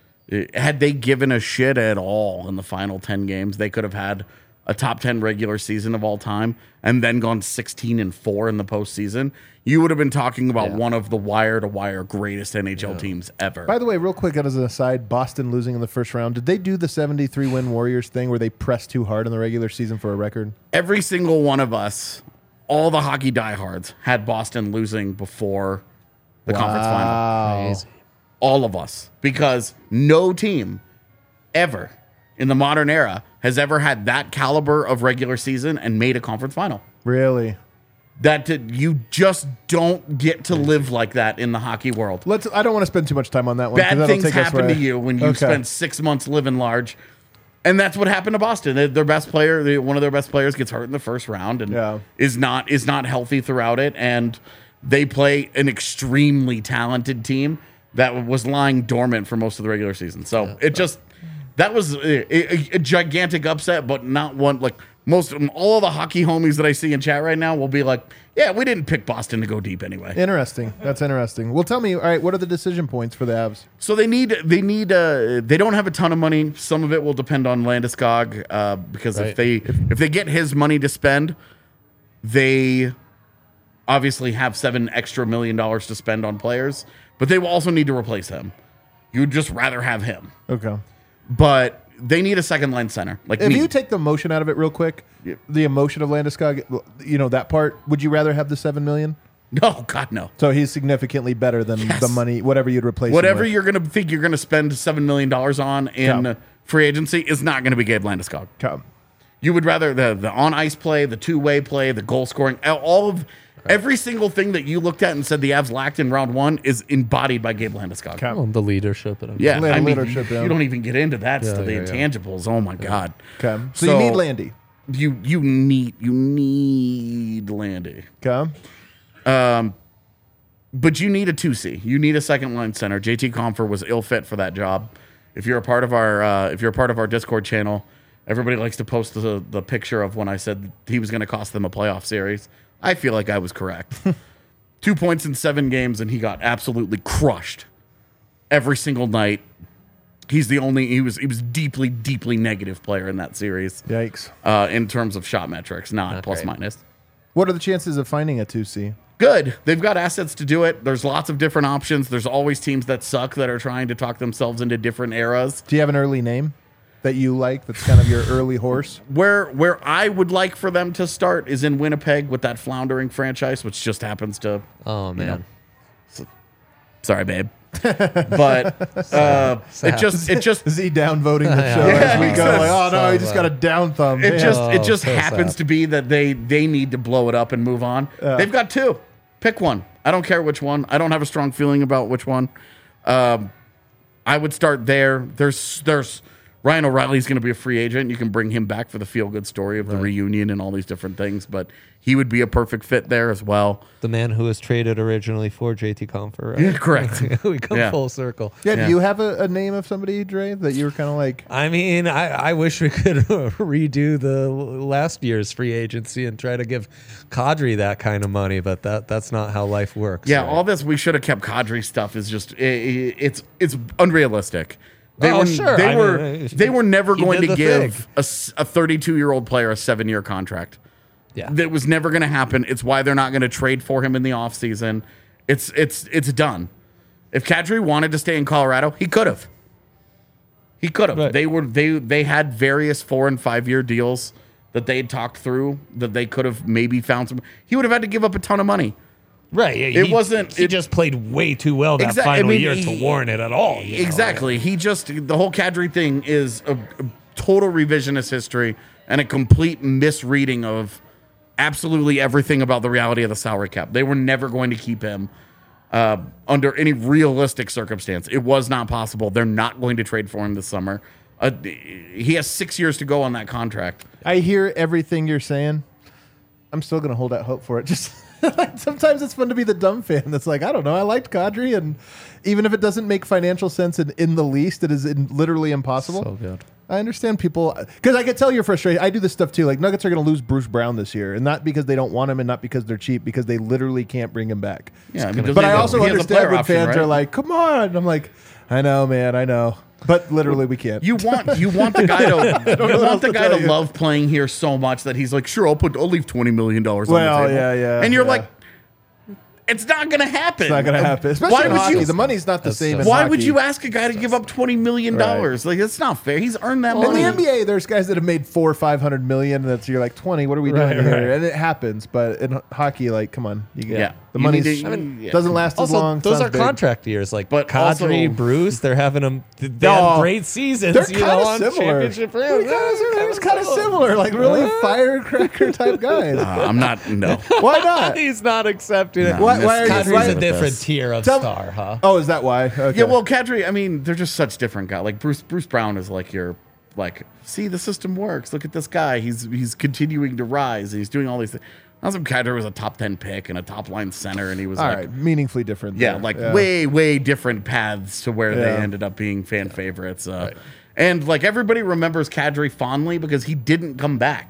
had they given a shit at all in the final ten games, they could have had a top ten regular season of all time and then gone sixteen and four in the postseason. You would have been talking about Yeah. one of the wire to wire greatest N H L teams ever. By the way, real quick, as an aside, Boston losing in the first round. Did they do the seventy-three win Warriors thing where they pressed too hard in the regular season for a record? Every single one of us, all the hockey diehards, had Boston losing before the conference final. Wow. Crazy. All of us, because no team ever in the modern era has ever had that caliber of regular season and made a conference final. Really? That did, you just don't get to live like that in the hockey world. Let's. I don't want to spend too much time on that one. 'cause Bad that'll things take us happen where- to you when you Okay. spend six months living large. And that's what happened to Boston. Their- Their best player, they- one of their best players, gets hurt in the first round and Yeah. is not is not healthy throughout it. And they play an extremely talented team that was lying dormant for most of the regular season. So it just that was a, a, a gigantic upset, but not one like most all of the hockey homies that I see in chat right now will be like, yeah, we didn't pick Boston to go deep anyway. Interesting. That's interesting. Well, tell me, all right, what are the decision points for the Avs? So they need they need uh, they don't have a ton of money. Some of it will depend on Landeskog uh, because Right. if they if they get his money to spend, they obviously have seven extra million dollars to spend on players, but they will also need to replace him. You'd just rather have him, Okay. but they need a second line center. Like If me. you take the emotion out of it real quick, the emotion of Landeskog, you know, that part, would you rather have the seven million? no, God no. So he's significantly better than Yes. the money, whatever you'd replace him Whatever with. you're going to think you're going to spend seven million dollars on in Yeah. free agency is not going to be Gabe Landeskog. Okay. You would rather the the on ice play, the two way play, the goal scoring, all of every single thing that you looked at and said the Avs lacked in round one is embodied by Gabe Landeskog. Okay. Well, the leadership. And Yeah, Land- I mean, leadership, you, yeah. you don't even get into that Yeah, stuff. The yeah, yeah. intangibles. Oh my god. Okay. So, you need Landy. You you need you need Landy. Okay. But you need a two C. You need a second line center. J T Compher was ill fit for that job. If you're a part of our uh, if you're a part of our Discord channel, everybody likes to post the the picture of when I said he was going to cost them a playoff series. I feel like I was correct. Two points in seven games, and he got absolutely crushed every single night. He's the only he was he was deeply deeply negative player in that series Yikes. uh, in terms of shot metrics, not, Not plus great. minus. What are the chances of finding a two C? Good. They've got assets to do it. There's lots of different options. There's always teams that suck that are trying to talk themselves into different eras. Do you have an early name that you like that's kind of your early horse? Where where I would like for them to start is in Winnipeg with that floundering franchise, which just happens to. Oh man. Sorry, babe. But uh, it just it just Is he downvoting the Yeah. show as we Yeah, go? Like, oh no, so he just got a down thumb. it Man. just it Oh, just so happens sad. to be that they they need to blow it up and move on. They've got two. Pick one. I don't care which one. I don't have a strong feeling about which one. Um, I would start there. There's there's Ryan O'Reilly's going to be a free agent. You can bring him back for the feel good story of the reunion and all these different things, but he would be a perfect fit there as well. The man who was traded originally for J T Compher, right? Yeah, correct. we come Yeah. full circle. yeah, yeah. do you have a, a name of somebody, Dre, that you were kind of like? I mean, I, I wish we could redo the last year's free agency and try to give Kadri that kind of money, but that that's not how life works. Yeah, right? all this we should have kept Kadri stuff is just i i it's it's unrealistic. They Oh, were sure. they I were mean, they were never he going did to the give thing. a a thirty-two year old player a seven year contract. Yeah. That was never going to happen. It's why they're not going to trade for him in the offseason. It's it's it's done. If Kadri wanted to stay in Colorado, he could have. He could have. Right. They were they they had various four and five year deals that they had talked through that they could have maybe found some. He would have had to give up a ton of money. Right. yeah, It he- wasn't- He it- just played way too well that Exact- I final mean, year he- to warrant it at all. you know? Exactly. He just the whole Kadri thing is a, a total revisionist history and a complete misreading of absolutely everything about the reality of the salary cap. They were never going to keep him uh, under any realistic circumstance. It was not possible. They're not going to trade for him this summer. Uh, he has six years to go on that contract. I hear everything you're saying. I'm still going to hold out hope for it. Just sometimes it's fun to be the dumb fan that's like, I don't know. I liked Kadri, and even if it doesn't make financial sense in, in the least, it is in, literally impossible. So good. I understand people because I could tell you're frustrated. I do this stuff too. Like Nuggets are going to lose Bruce Brown this year, and not because they don't want him, and not because they're cheap, because they literally can't bring him back. Yeah, I mean, doesn't But he I have a- also he has a understand player when option, fans right? are like, "Come on!" I'm like, "I know, man, I know," but literally we can't. You want you want the guy to you know what want else the to guy tell to you. love playing here so much that he's like, sure, I'll put I'll leave twenty million dollars on Well, the table. yeah, yeah, and you're yeah. like, it's not gonna happen. It's not going to happen. Especially Why in would hockey. you? The money's not the That's same. so in Why hockey. would you ask a guy to give up twenty million dollars? Like that's not fair. He's earned that In money. the N B A, there's guys that have made four or five hundred million. That's you're like twenty. What are we Right, doing here? right. And it happens. But in hockey, like, come on, you get Yeah. the You money need to- I mean, yeah. doesn't last as Also, long. those sounds are big. contract years. Like, But Kadri, also- Bruce, they're having them. They No. have great seasons. They're you kind know, of on similar. championship They're rings. kind of kind of similar, like really firecracker type guys. Uh, I'm not. No. Why not? He's not accepting it. No, Why- why are you- Kadri's why- a different this. tier of Tell- star, huh? Oh, is that why? Okay. Yeah. Well, Kadri. I mean, they're just such different guys. Like Bruce. Bruce Brown is like your like. See, the system works. Look at this guy. He's he's continuing to rise. He's doing all these things. Awesome Kadri was a top ten pick and a top line center, and he was all like. right, meaningfully different. Yeah, there. like way, way different paths to where they Yeah. ended up being fan favorites. Uh, And like everybody remembers Kadri fondly because he didn't come back.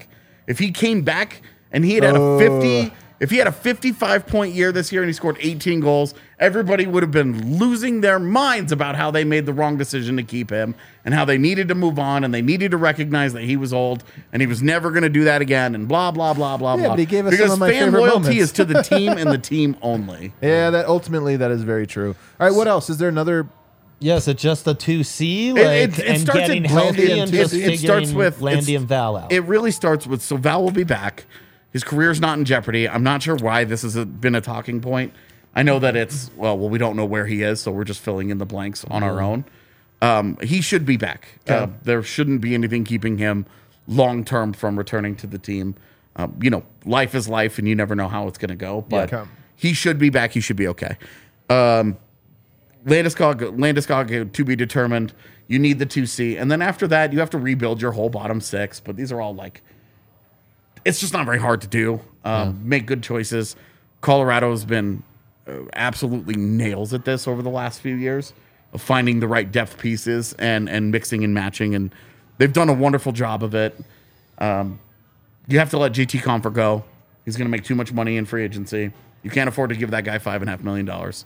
If he came back and he had had a fifty, if he had a fifty-five point year this year and he scored eighteen goals, everybody would have been losing their minds about how they made the wrong decision to keep him and how they needed to move on and they needed to recognize that he was old and he was never going to do that again and blah blah blah blah Yeah, blah. but he gave us because some of my fan favorite loyalty moments. is to the team and the team only. Yeah, that ultimately that is very true. All right, what else? Is there another? Yes, it's just a two C, like, it- it and starts getting at healthy Landy and and just two C. It starts figuring with Landy it's- and Val out. It really starts with so Val will be back. His career's not in jeopardy. I'm not sure why this has a, been a talking point. I know that it's well, well, we don't know where he is, so we're just filling in the blanks on our own. Um, he should be back. Uh, there shouldn't be anything keeping him long term from returning to the team. Um, you know, life is life, and you never know how it's going to go. But Okay. he should be back. He should be okay. Um, Landeskog, Landeskog to be determined. You need the two C, and then after that, you have to rebuild your whole bottom six. But these are all like, it's just not very hard to do. Um, Make good choices. Colorado has been uh, absolutely nails at this over the last few years of finding the right depth pieces and and mixing and matching, and they've done a wonderful job of it. Um, you have to let J T Compher go. He's going to make too much money in free agency. You can't afford to give that guy five and a half million dollars.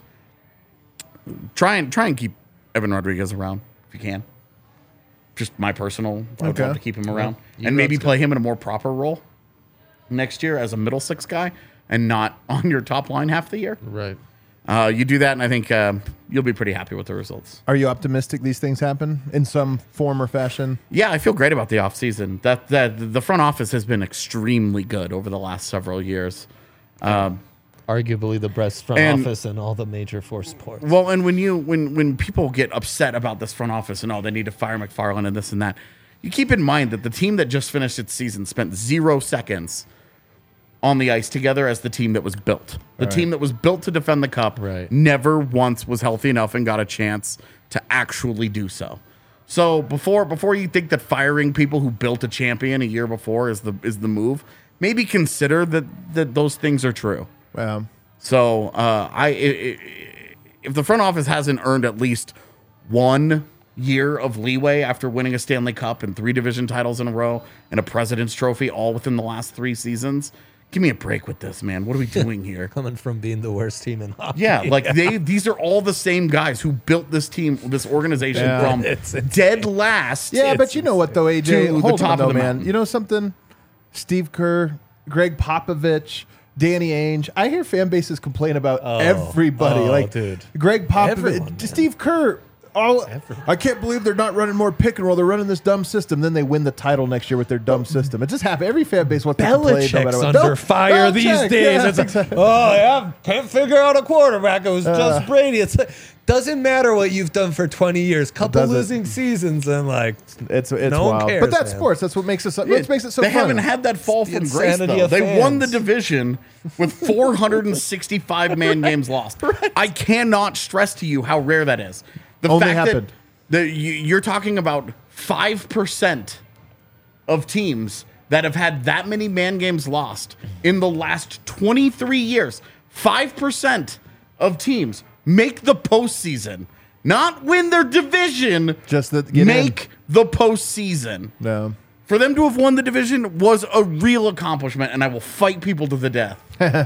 Try and try and keep Evan Rodriguez around if you can. Just my personal. I would Okay. love to keep him around You and maybe that's play him in a more proper role next year as a middle six guy and not on your top line half the year. right. Uh, you do that, and I think um, you'll be pretty happy with the results. Are you optimistic these things happen in some form or fashion? Yeah, I feel great about the offseason. That that the front office has been extremely good over the last several years. Um, Arguably the best front And- office in all the major four sports. Well, and when you when when people get upset about this front office and oh they need to fire McFarland and this and that, you keep in mind that the team that just finished its season spent zero seconds on the ice together as the team that was built. The team that was built to defend the cup Right. never once was healthy enough and got a chance to actually do so. So before before you think that firing people who built a champion a year before is the is the move, maybe consider that that those things are true. Um, So uh, I, i- i- if the front office hasn't earned at least one year of leeway after winning a Stanley Cup and three division titles in a row and a President's Trophy all within the last three seasons, give me a break with this, man. What are we doing here? Coming from being the worst team in hockey. Yeah, like they these are all the same guys who built this team, this organization Yeah. from It's- it's- dead last. yeah, but you know what though, A J? to the Hold top on of though, the man. mountain. You know something? Steve Kerr, Greg Popovich, Danny Ainge. I hear fan bases complain about everybody. oh, like dude. Greg Popovich, Everyone, man. Steve Kerr. All, I can't believe they're not running more pick and roll. They're running this dumb system. Then they win the title next year with their dumb system. It just happens. Every fan base wants to complain. No matter Belichick's what. under No, fire Belichick, these days. yeah, It's like, exactly. oh, yeah, can't figure out a quarterback. It was Uh. just Brady. It's like, doesn't matter what you've done for twenty years. Couple doesn't. losing seasons and like It's it's No one wild. cares, but that's man. sports. That's what makes it. So, what makes it so they fun. haven't had that fall It's the from grace insanity though. of They won the fans. division with four hundred sixty-five man games lost. I cannot stress to you how rare that is. The Only fact happened. that the, you, you're talking about five percent of teams that have had that many man games lost in the last twenty-three years. five percent of teams make the postseason, not win their division. Just that get make the postseason. in. No. For them to have won the division was a real accomplishment, and I will fight people to the death.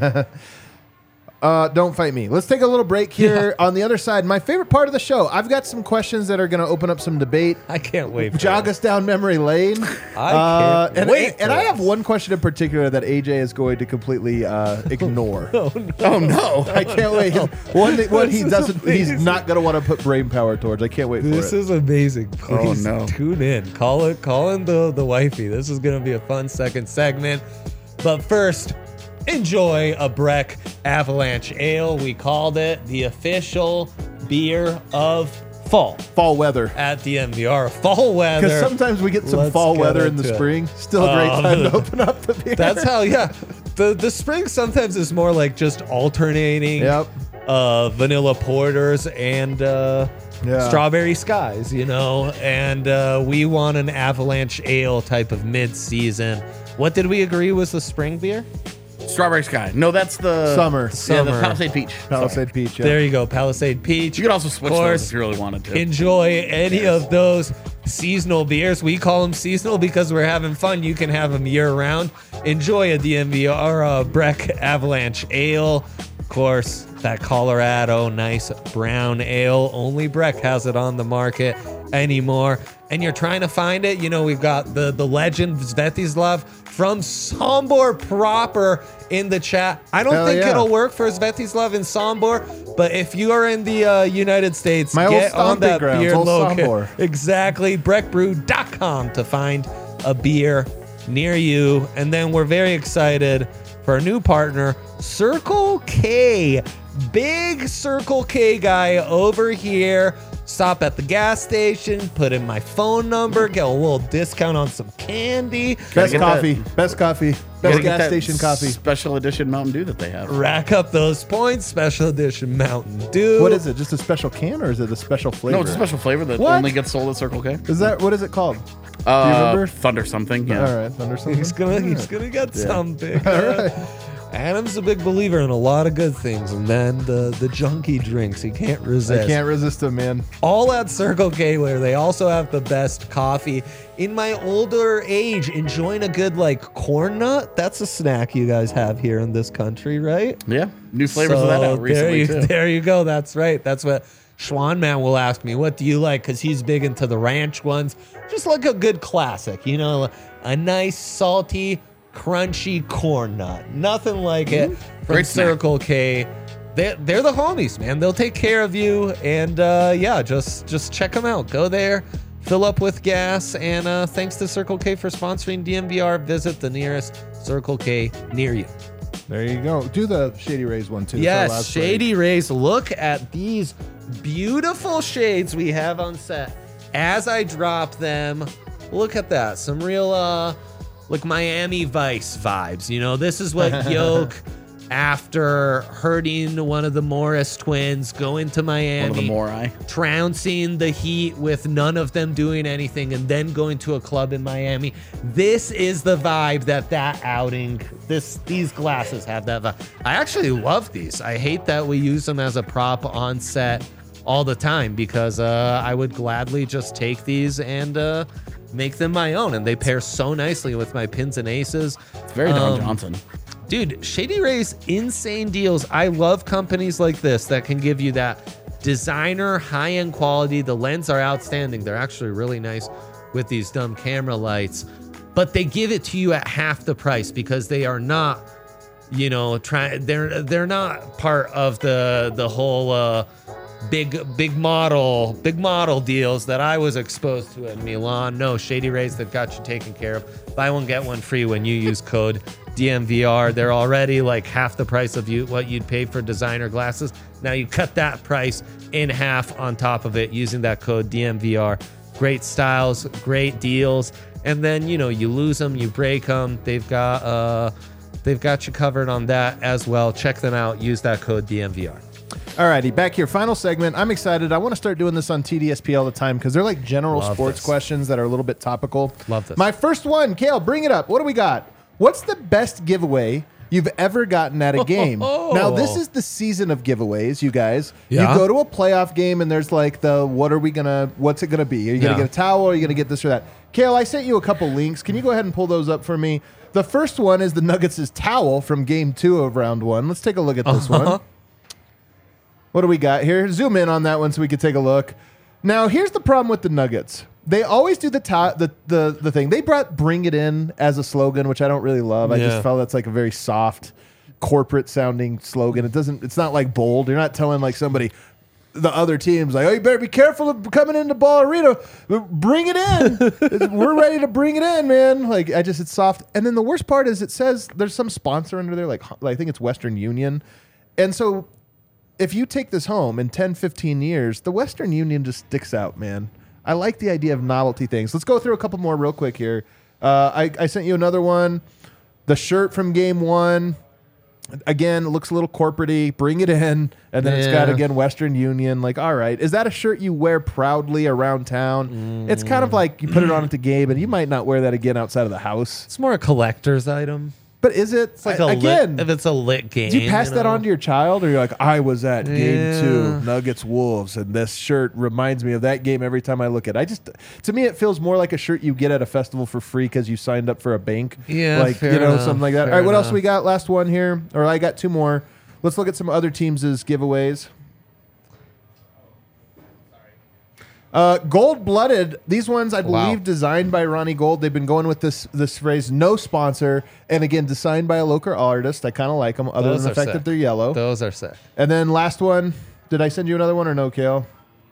Uh, don't fight me. Let's take a little break here. On the other side, my favorite part of the show. I've got some questions that are going to open up some debate. I can't wait. For Jog it. us down memory lane. I Uh, can't and wait. and for I have this. one question in particular that A J is going to completely uh, ignore. Oh no! I can't wait. One, that- one he This is doesn't. He's amazing. not going to want to put brain power towards. I can't wait for This it. is amazing. Please Oh, no. tune in. Call it. Call in the the wifey. This is gonna be a fun second segment. But first, enjoy a Breck Avalanche Ale. We called it the official beer of fall Fall weather. at the M V R. Fall weather. Because sometimes we get some Let's fall get weather in the into it. spring. Still a great Um, time to open up the beer. That's how. Yeah, the the spring sometimes is more like just alternating. Yep. Uh, vanilla porters and uh, Yeah. strawberry skies, you know, and uh, we want an Avalanche Ale type of mid-season. What did we agree was the spring beer? Strawberry Sky. No, that's the Summer. Yeah, Summer. the Palisade Peach. Palisade Peach. Yeah. There you go, Palisade Peach. You could also switch Of those course, if you really wanted to. enjoy any of those. seasonal beers. We call them seasonal because we're having fun. You can have them year round. Enjoy a D M V R uh, Breck Avalanche Ale. Of course, that Colorado nice brown ale. Only Breck has it on the market anymore. And you're trying to find it. You know, we've got the, the legend Svetislav from Sombor proper in the chat. I don't Hell think yeah. it'll work for Svetislav in Sombor, but if you are in the uh, United States, My old get on stomping that grounds, beer old local. Sombor. Exactly. breck brew dot com to find a beer near you. And then we're very excited for a new partner, Circle K. Big Circle K guy over here. Stop at the gas station, put in my phone number, get a little discount on some candy. Best get coffee. that- Best coffee. Gotta Best get gas that station coffee. Special edition Mountain Dew that they have. Rack up those points. Special edition Mountain Dew. What is it? Just a special can or is it a special flavor? No, it's a special flavor that What? only gets sold at Circle K. Is that what is it called? Uh, Do you remember? Thunder something. Yeah. All right, thunder something. He's gonna, he's gonna get something. All right. Adam's a big believer in a lot of good things, and then the the junky drinks he can't resist. I can't resist them, man. All at Circle K, where they also have the best coffee. In my older age, enjoying a good like corn nut. That's a snack you guys have here in this country, right? Yeah. New flavors of that So out recently there you, too. There you go. That's right. That's what Schwan Man will ask me. What do you like? Because he's big into the ranch ones. Just like a good classic, you know, a nice salty, crunchy corn nut. Nothing like it from Mm-hmm. Great snack. Circle K. They're, they're the homies, man. They'll take care of you. And uh, yeah, just just check them out. Go there, fill up with gas. And uh, thanks to Circle K for sponsoring D M V R. Visit the nearest Circle K near you. There you go. Do the Shady Rays one too. It's our Yes, last Shady Rays. Look at these beautiful shades we have on set. As I drop them, look at that. Some real, uh, like Miami Vice vibes. You know, this is what Yoke, after hurting one of the Morris twins, going to Miami, One of the Morai. trouncing the Heat with none of them doing anything, and then going to a club in Miami. This is the vibe that that outing, this these glasses have that vibe. I actually love these. I hate that we use them as a prop on set all the time because uh, I would gladly just take these and uh, make them my own, and they pair so nicely with my pins and aces. It's very Don Um, Johnson. Dude, Shady Rays, insane deals. I love companies like this that can give you that designer, high-end quality. The lens are outstanding. They're actually really nice with these dumb camera lights. But they give it to you at half the price because they are not, you know, trying. They're they're not part of the the whole uh, big big model big model deals that I was exposed to in Milan. No, Shady Rays, they've got you taken care of. Buy one get one free when you use code D M V R. They're already like half the price of you what you'd pay for designer glasses. Now you cut that price in half on top of it using that code D M V R. Great styles, great deals, and then you know you lose them, you break them. They've got uh, they've got you covered on that as well. Check them out. Use that code D M V R. Alrighty, back here. Final segment. I'm excited. I want to start doing this on T D S P all the time because they're like general Love sports this. questions that are a little bit topical. Love this. My first one, Kale, bring it up. What do we got? What's the best giveaway you've ever gotten at a game? Now, this is the season of giveaways, you guys. Yeah. You go to a playoff game and there's like the, what are we going to, what's it going to be? Are you going to Yeah. get a towel? Or are you going to get this or that? Kale, I sent you a couple links. Can you go ahead and pull those up for me? The first one is the Nuggets' towel from game two of round one. Let's take a look at this Uh-huh. one. What do we got here? Zoom in on that one so we can take a look. Now, here's the problem with the Nuggets. They always do the ta- the, the the thing. They brought "Bring It In" as a slogan, which I don't really love. I Yeah. just felt that's like a very soft, corporate sounding slogan. It doesn't. It's not like bold. You're not telling like somebody, the other teams, like, oh, you better be careful of coming into Ball Arena. Bring it in. We're ready to bring it in, man. Like I just, it's soft. And then the worst part is it says there's some sponsor under there, like, like I think it's Western Union, and so. If you take this home in ten, fifteen years, the Western Union just sticks out, man. I like the idea of novelty things. Let's go through a couple more real quick here. Uh, I, I sent you another one. The shirt from game one. Again, it looks a little corporate-y. Bring it in. And then it's got, Yeah. again, Western Union. Like, all right. Is that a shirt you wear proudly around town? Mm. It's kind of like you put it on at the game, and you might not wear that again outside of the house. It's more a collector's item. But is it It's like a again? lit, if it's a lit game. do you pass you that know? on to your child, or you're like, I was at game Yeah. two, Nuggets Wolves, and this shirt reminds me of that game every time I look at it. I just, to me, it feels more like a shirt you get at a festival for free because you signed up for a bank. Yeah, like fair you know enough, something like that. fair All right, what else enough. we got? Last one here, or I got two more. Let's look at some other teams' giveaways. Uh, Gold-blooded. These ones, I Wow. believe, designed by Ronnie Gold. They've been going with this this phrase, no sponsor, and again, designed by a local artist. I kind of like them, other Those than the are fact sick. that they're yellow. Those are sick. And then last one. Did I send you another one or no, Kale?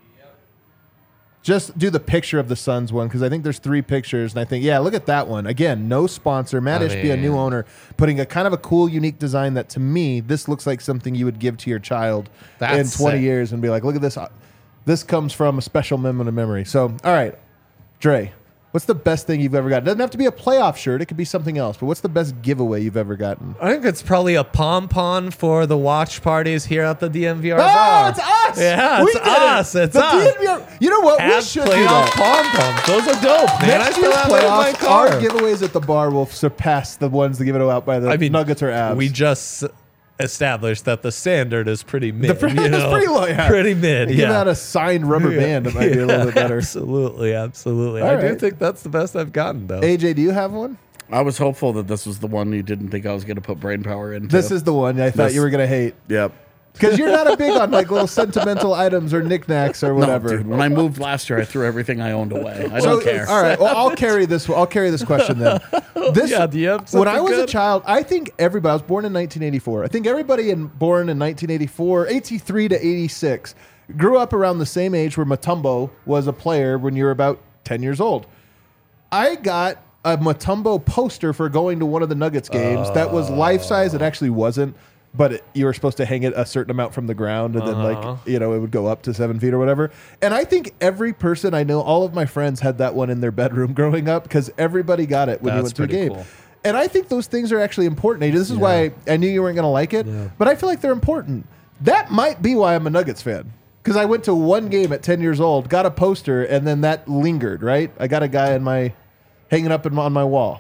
Just do the picture of the Suns one because I think there's three pictures, and I think, yeah, look at that one. Again, no sponsor. Matt I Ishbia, a new mean- owner, putting a kind of a cool, unique design that to me, this looks like something you would give to your child in That's twenty sick. years and be like, look at this. This comes from a special moment of memory. So, all right, Dre, what's the best thing you've ever gotten? It doesn't have to be a playoff shirt. It could be something else, but what's the best giveaway you've ever gotten? I think it's probably a pom pom for the watch parties here at the D M V R Oh, bar. it's us! Yeah, We it's did it. us. It's The us. D M V R You know what? We Have should do playoff that. pom poms. Those are dope, man. I Next still year's have them in my playoffs, car. our giveaways at the bar will surpass the ones that give it out by the I mean, Nuggets or Avs. We just established that the standard is pretty mid. The pre- you it's know? pretty low, yeah. Pretty mid. Give yeah. out a signed rubber band. It might be a little bit better. Absolutely, absolutely. All I do right. think that's the best I've gotten, though. A J, do you have one? I was hopeful that this was the one you didn't think I was going to put brain power into. This is the one I thought This- you were going to hate. Yep. Because you're not a big on like little sentimental items or knickknacks or No, whatever. dude. When I moved last year, I threw everything I owned away. I So, don't care. All right. Well, I'll carry this. I'll carry this question then. This, Yeah, do you have when I something was a good? child, I think everybody. I was born in nineteen eighty-four. I think everybody in, born in nineteen eighty-four, eighty-three to eighty-six, grew up around the same age where Mutombo was a player when you were about ten years old. I got a Mutombo poster for going to one of the Nuggets games that was life size. It actually wasn't. But it, you were supposed to hang it a certain amount from the ground, and then Uh-huh. like you know it would go up to seven feet or whatever. And I think every person I know, all of my friends had that one in their bedroom growing up because everybody got it when you That's went to a pretty game. cool. And I think those things are actually important. A J. This is why I knew you weren't going to like it, Yeah. but I feel like they're important. That might be why I'm a Nuggets fan because I went to one game at ten years old, got a poster, and then that lingered. Right, I got a guy in my hanging up in, on my wall.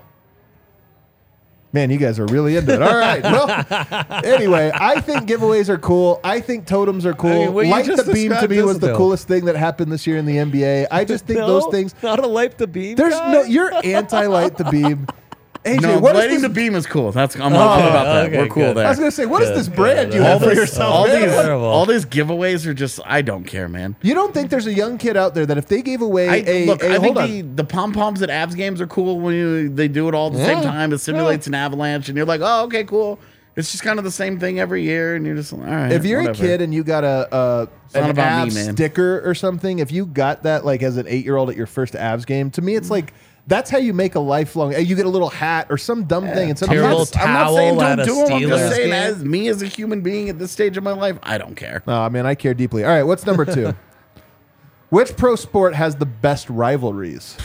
Man, you guys are really into it. All right. Well, anyway, I think giveaways are cool. I think totems are cool. I mean, what you Light just the beam to described me is was the dope. coolest thing that happened this year in the N B A. I just think No, those things. Not a light the beam. There's guy? no. You're anti light the beam. A J, No, what is lighting this? the beam is cool. That's I'm Oh, all about that. okay, We're cool good. there. I was gonna say, what is Good, this brand good. you All have for this- yourself? all man? these, Terrible. all these giveaways are just I don't care, man. You don't think there's a young kid out there that if they gave away I, a, look, a I think hold the, on. the pom poms at Avs games are cool when you, they do it all at the same Yeah. time. It simulates an avalanche, and you're like, oh, okay, cool. It's just kind of the same thing every year, and you're just like, all right. If you're whatever. a kid and you got a, a not an about me, Avs man. sticker or something, if you got that like as an eight year old at your first Avs game, to me it's like that's how you make a lifelong. You get a little hat or some dumb thing, and some I'm Terrible not, I'm not saying towel don't at a do them. I'm just Steelers saying, game. as me as a human being at this stage of my life, I don't care. Oh man, I care deeply. All right, what's number two? Which pro sport has the best rivalries?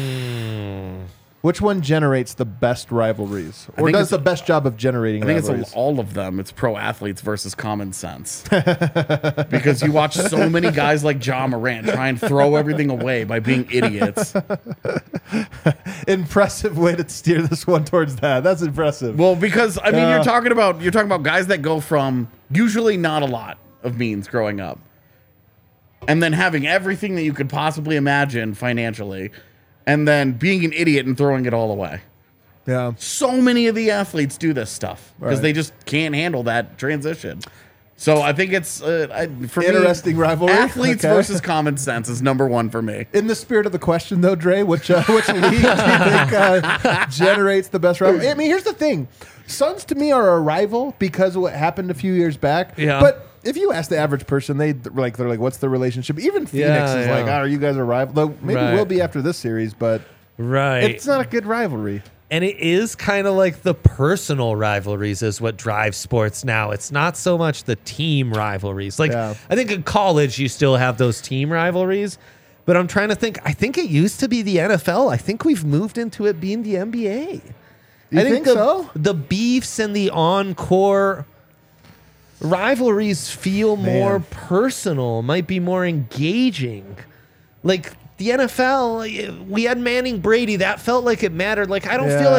Which one generates the best rivalries, or think does it's- the best job of generating I think rivalries? it's all of them. It's pro athletes versus common sense. Because you watch so many guys like Ja Morant try and throw everything away by being idiots. Impressive way to steer this one towards that. That's impressive. Well, because I mean, Yeah. you're talking about you're talking about guys that go from usually not a lot of means growing up, and then having everything that you could possibly imagine financially, and then being an idiot and throwing it all away. yeah. So many of the athletes do this stuff because Right. they just can't handle that transition. So I think it's uh, I, for Interesting me, rivalry. Athletes Okay. versus common sense is number one for me. In the spirit of the question, though, Dre, which uh, which league do you think uh, generates the best rivalry? I mean, here's the thing: Suns to me are a rival because of what happened a few years back. Yeah. But if you ask the average person, they like they're like, "What's the relationship?" Even Phoenix Yeah, is yeah. like, "Oh, are you guys a rival?" Though maybe Right. we'll be after this series, but Right. it's not a good rivalry. And it is kind of like the personal rivalries is what drives sports now. It's not so much the team rivalries. Like, Yeah. I think in college, you still have those team rivalries. But I'm trying to think. I think it used to be the N F L. I think we've moved into it being the N B A. You I think the, so? The beefs and the encore rivalries feel more Man. personal, might be more engaging. Like the N F L, we had Manning Brady. That felt like it mattered. Like I don't feel Yeah. like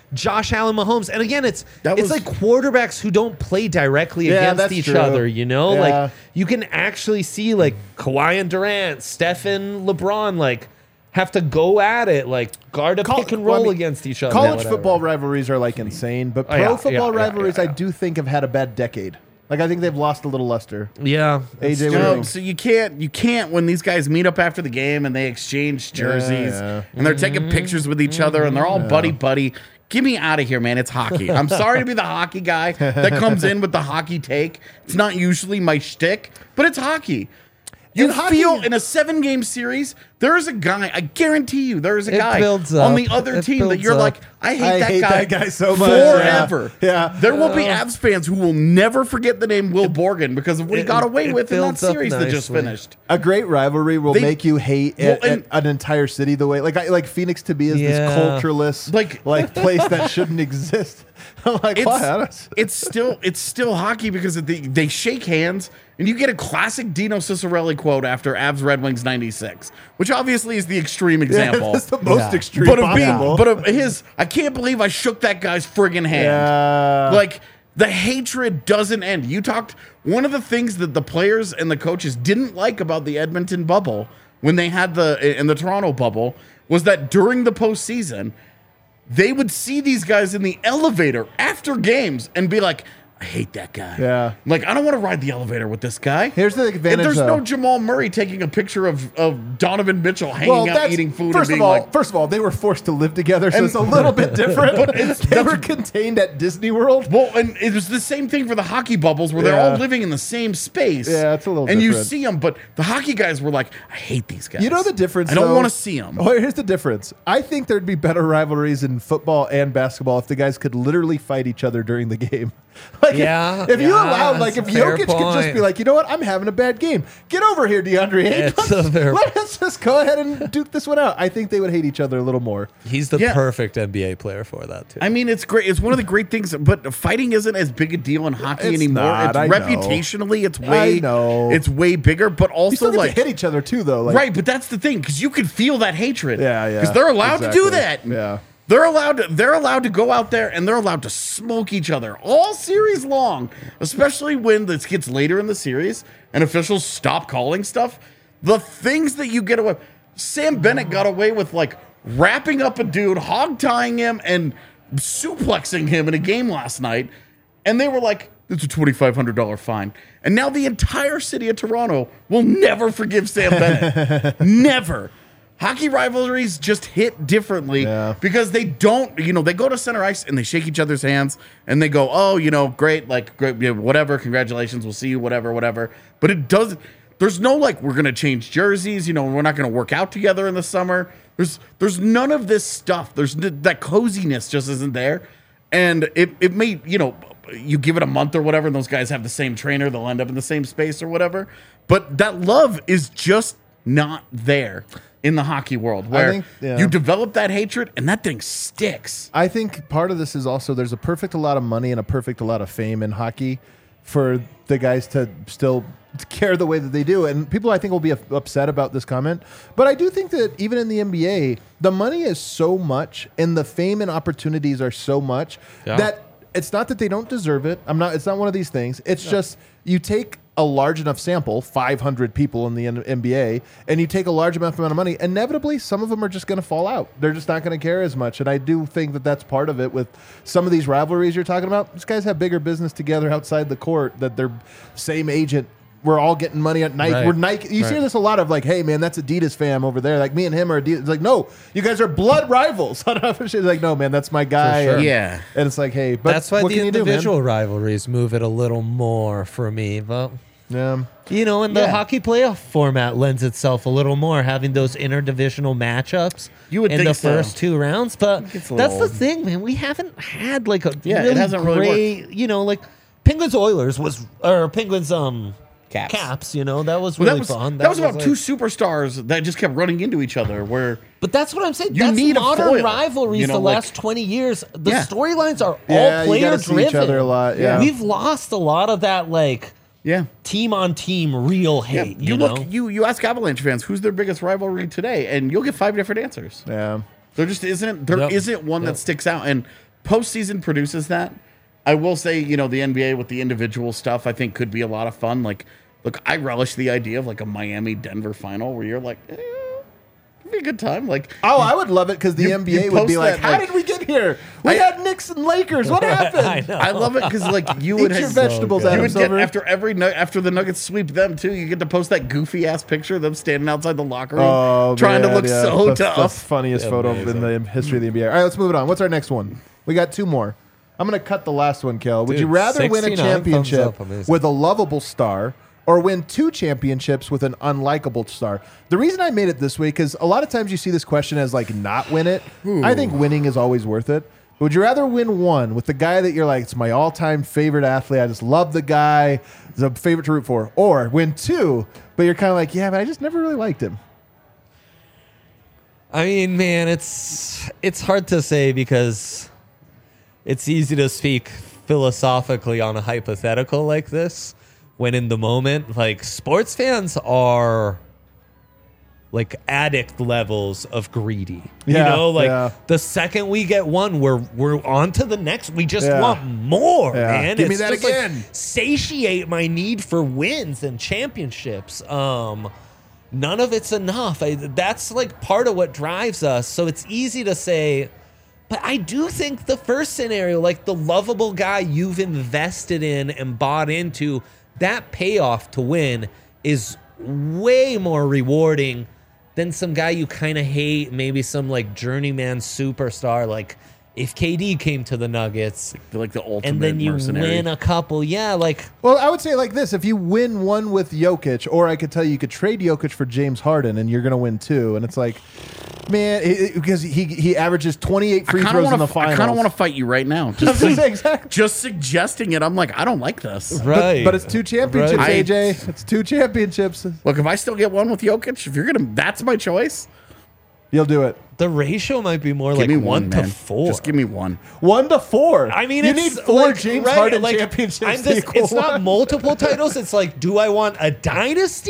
Josh Allen, Mahomes, and again, it's That it's was- like quarterbacks who don't play directly Yeah, against that's each true. other. You know, Yeah. like you can actually see like Kawhi and Durant, Steph and LeBron, like have to go at it, like guard a Col- pick and well, I roll mean, against each other. College whatever. football rivalries are like insane, but Oh, pro yeah, football yeah, yeah, rivalries yeah, I yeah. do think have had a bad decade. Like I think they've lost a little luster. Yeah, A J, what do it's you true. No, think? so you can't you can't when these guys meet up after the game and they exchange jerseys yeah. and they're taking pictures with each other and they're all buddy buddy. Get me out of here, man. It's hockey. I'm sorry to be the hockey guy that comes in with the hockey take. It's not usually my shtick, but it's hockey. You In hockey- feel in a seven game series, there is a guy, I guarantee you, there is a It guy builds on up. the other It team that builds you're up. like, I hate, I that, hate guy that guy so much. Yeah. forever. Yeah. There will be Avs fans who will never forget the name Will Borgen because of what he it- got away it with in that builds up series that just nicely. finished. A great rivalry will They- make you hate Well, it- and- an entire city the way like I, like Phoenix to be is Yeah. this cultureless Like- like place that shouldn't exist. I'm like, It's, why? I don't- it's still it's still hockey because they, they shake hands and you get a classic Dino Ciccarelli quote after Avs Red Wings ninety-six, which obviously is the extreme example. That's the most Yeah. extreme but of being, possible. but of his, I can't believe I shook that guy's friggin' hand. yeah. Like the hatred doesn't end. You talked one of the things that the players and the coaches didn't like about the Edmonton bubble when they had the in the Toronto bubble was that during the postseason, they would see these guys in the elevator after games and be like, I hate that guy. Yeah. Like, I don't want to ride the elevator with this guy. Here's the And advantage, there's though. no Jamal Murray taking a picture of, of Donovan Mitchell hanging out that's- eating food First and being of all, like, first of all, they were forced to live together, so And- it's a little bit different. But it's- they that's- were contained at Disney World. well, and it was the same thing for the hockey bubbles where they're all Yeah. living in the same space. Yeah, it's a little And you different. see them, but the hockey guys were like, I hate these guys. You know the difference. I don't though? want to see them. Oh, here's the difference. I think there'd be better rivalries in football and basketball if the guys could literally fight each other during the game. Like if- Yeah, if, you yeah, allowed, like if that's a fair Jokic could just point. be like, you know what, I'm having a bad game. Get over here, DeAndre Ayton. It's a fair- Let's just go ahead and duke this one out. I think they would hate each other a little more. He's the Yeah. perfect N B A player for that too. I mean, it's great. It's one of the great things, but fighting isn't as big a deal in hockey It's anymore. not, it's I know. reputationally, it's way, I know. it's way bigger. But You also, still get like, to hit each other too, though. Like, right? But that's the thing because you can feel that hatred. Yeah, yeah. Because they're allowed to do Exactly. that. Yeah. They're allowed to they're allowed to go out there and they're allowed to smoke each other all series long, especially when this gets later in the series and officials stop calling stuff. The things that you get away Sam Bennett got away with like wrapping up a dude, hog tying him, and suplexing him in a game last night. And they were like, it's a twenty-five hundred dollars fine. And now the entire city of Toronto will never forgive Sam Bennett. Never. Hockey rivalries just hit differently Yeah. because they don't, you know, they go to center ice and they shake each other's hands and they go, oh, you know, great, like, great, you know, whatever, congratulations, we'll see you, whatever, whatever. But it doesn't, there's no like, we're going to change jerseys, you know, we're not going to work out together in the summer. There's, there's none of this stuff. There's n- that coziness just isn't there. And it, it may, you know, you give it a month or whatever, and those guys have the same trainer, they'll end up in the same space or whatever. But that love is just not there in the hockey world where think, yeah. you develop that hatred and that thing sticks. I think part of this is also there's a perfect a lot of money and a perfect a lot of fame in hockey for the guys to still care the way that they do. And people, I think, will be up- upset about this comment. But I do think that even in the N B A, the money is so much and the fame and opportunities are so much Yeah. that it's not that they don't deserve it. I'm not. It's not one of these things. It's just you take a large enough sample, five hundred people in the N- NBA, and you take a large amount of money, inevitably, some of them are just going to fall out. They're just not going to care as much. And I do think that that's part of it with some of these rivalries you're talking about. These guys have bigger business together outside the court, that they're same agent. We're all getting money at Nike. Right. We're Nike. You see Right. this a lot of like, hey, man, that's Adidas fam over there. Like, me and him are Adidas. It's like, no, you guys are blood rivals. It's like, no, man, that's my guy. sure. And- Yeah. And it's like, hey, but That's why what the can you do, man? individual rivalries move it a little more for me. But Yeah. you know, and the Yeah. hockey playoff format lends itself a little more, having those interdivisional matchups You would in think the so. first two rounds. But gets a that's the little- thing, man. We haven't had like a Yeah, it really hasn't really great, you know, like Penguins Oilers was or Penguins um Caps. Caps. You know, that was Well, really that was, fun. That, was about like- two superstars that just kept running into each other where But that's what I'm saying. You That's need a modern foil, rivalries. you know, the like- last twenty years, the Yeah. storylines are Yeah, all you player gotta see driven. each other a lot, yeah. We've lost a lot of that, like yeah. team on team real Yeah, hate. you, you, look, know? you you ask Avalanche fans who's their biggest rivalry today, and you'll get five different answers. Yeah. There just isn't there Yep. not one Yep. that sticks out. And postseason produces that. I will say, you know, the N B A with the individual stuff, I think could be a lot of fun. Like, look, I relish the idea of like a Miami Denver final where you're like, eh, it'd be a good time. Like, Oh, I would love it because the You- N B you A would be post like, that, "How like- did we get here? We I- had Knicks and Lakers. What happened?" I know. I love it because like you Eat would your have, vegetables, good. you Adam would get Silver. after every nu- after the Nuggets sweep them too. You get to post that goofy ass picture of them standing outside the locker room, Oh, trying man, to look yeah. so that's, tough. That's the funniest photo Amazing. in the history of the N B A. All right, let's move it on. What's our next one? We got two more. I'm going to cut the last one, Kel. Would Dude, you rather win a sixty-nine thumbs championship up. Amazing. with a lovable star or win two championships with an unlikable star? The reason I made it this way, because a lot of times you see this question as like not win it. I think winning is always worth it. But would you rather win one with the guy that you're like, it's my all-time favorite athlete, I just love the guy, he's a favorite to root for, or win two, but you're kind of like, yeah, but I just never really liked him. I mean, man, it's it's hard to say because it's easy to speak philosophically on a hypothetical like this when in the moment, like sports fans are like addict levels of greedy. Yeah, you know, like yeah. the second we get one, we're we're on to the next. We just Yeah. want more, Yeah. man. Give me It's that just, like, again. satiate my need for wins and championships. Um none of it's enough. I, that's like part of what drives us. So it's easy to say, but I do think the first scenario, like the lovable guy you've invested in and bought into, that payoff to win is way more rewarding than some guy you kind of hate, maybe some like journeyman superstar. Like if K D came to the Nuggets They're like the ultimate and then you mercenary. win a couple, yeah, like Well, I would say like this: if you win one with Jokic, or I could tell you you could trade Jokic for James Harden, and you're going to win two, and it's like, man, it, it- because he he averages twenty-eight free I kind throws of in want the to. finals. I kind of want to fight you right now. I was Just, gonna say, exactly. just suggesting it. I'm like, I don't like this. right. But, but it's two championships, Right. A J. It's two championships. Look, if I still get one with Jokic, if you're gonna, that's my choice. You'll do it. the ratio might be more Give like me one, one, to man. four. Just give me one. One to four. I mean, you it's need four like, James right, Harden like, championships. I'm to just, equal it's not one. multiple titles. It's like, do I want a dynasty?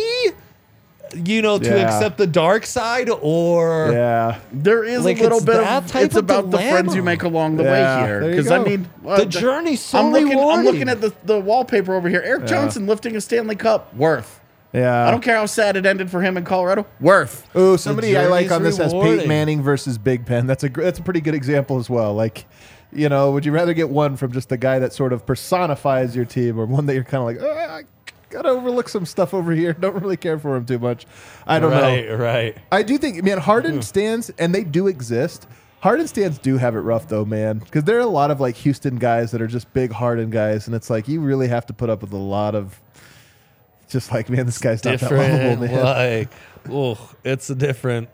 You know, to Yeah. accept the dark side, or Yeah. There is Like, a little it's bit that of. type It's of about the friends you dilemma. make along the Yeah, way here. there you Because I go. mean, uh, the journey's so I'm looking. rewarding. I'm looking at the, the wallpaper over here. Eric Johnson lifting a Stanley Cup. Worth. Yeah. I don't care how sad it ended for him in Colorado. Worth. Ooh, somebody I like journey's on this has Peyton rewarding. Manning versus Big Ben. That's a gr- that's a pretty good example as well. Like, you know, would you rather get one from just the guy that sort of personifies your team, or one that you're kind of like, "Ah, I gotta overlook some stuff over here. Don't really care for him too much. I don't right, know. right. I do think, man, Harden stands, and they do exist. Harden stands do have it rough though, man, because there are a lot of like Houston guys that are just big Harden guys, and it's like you really have to put up with a lot of. Just like, man, this guy's not that lovable, Different, man. like, oh, it's a different,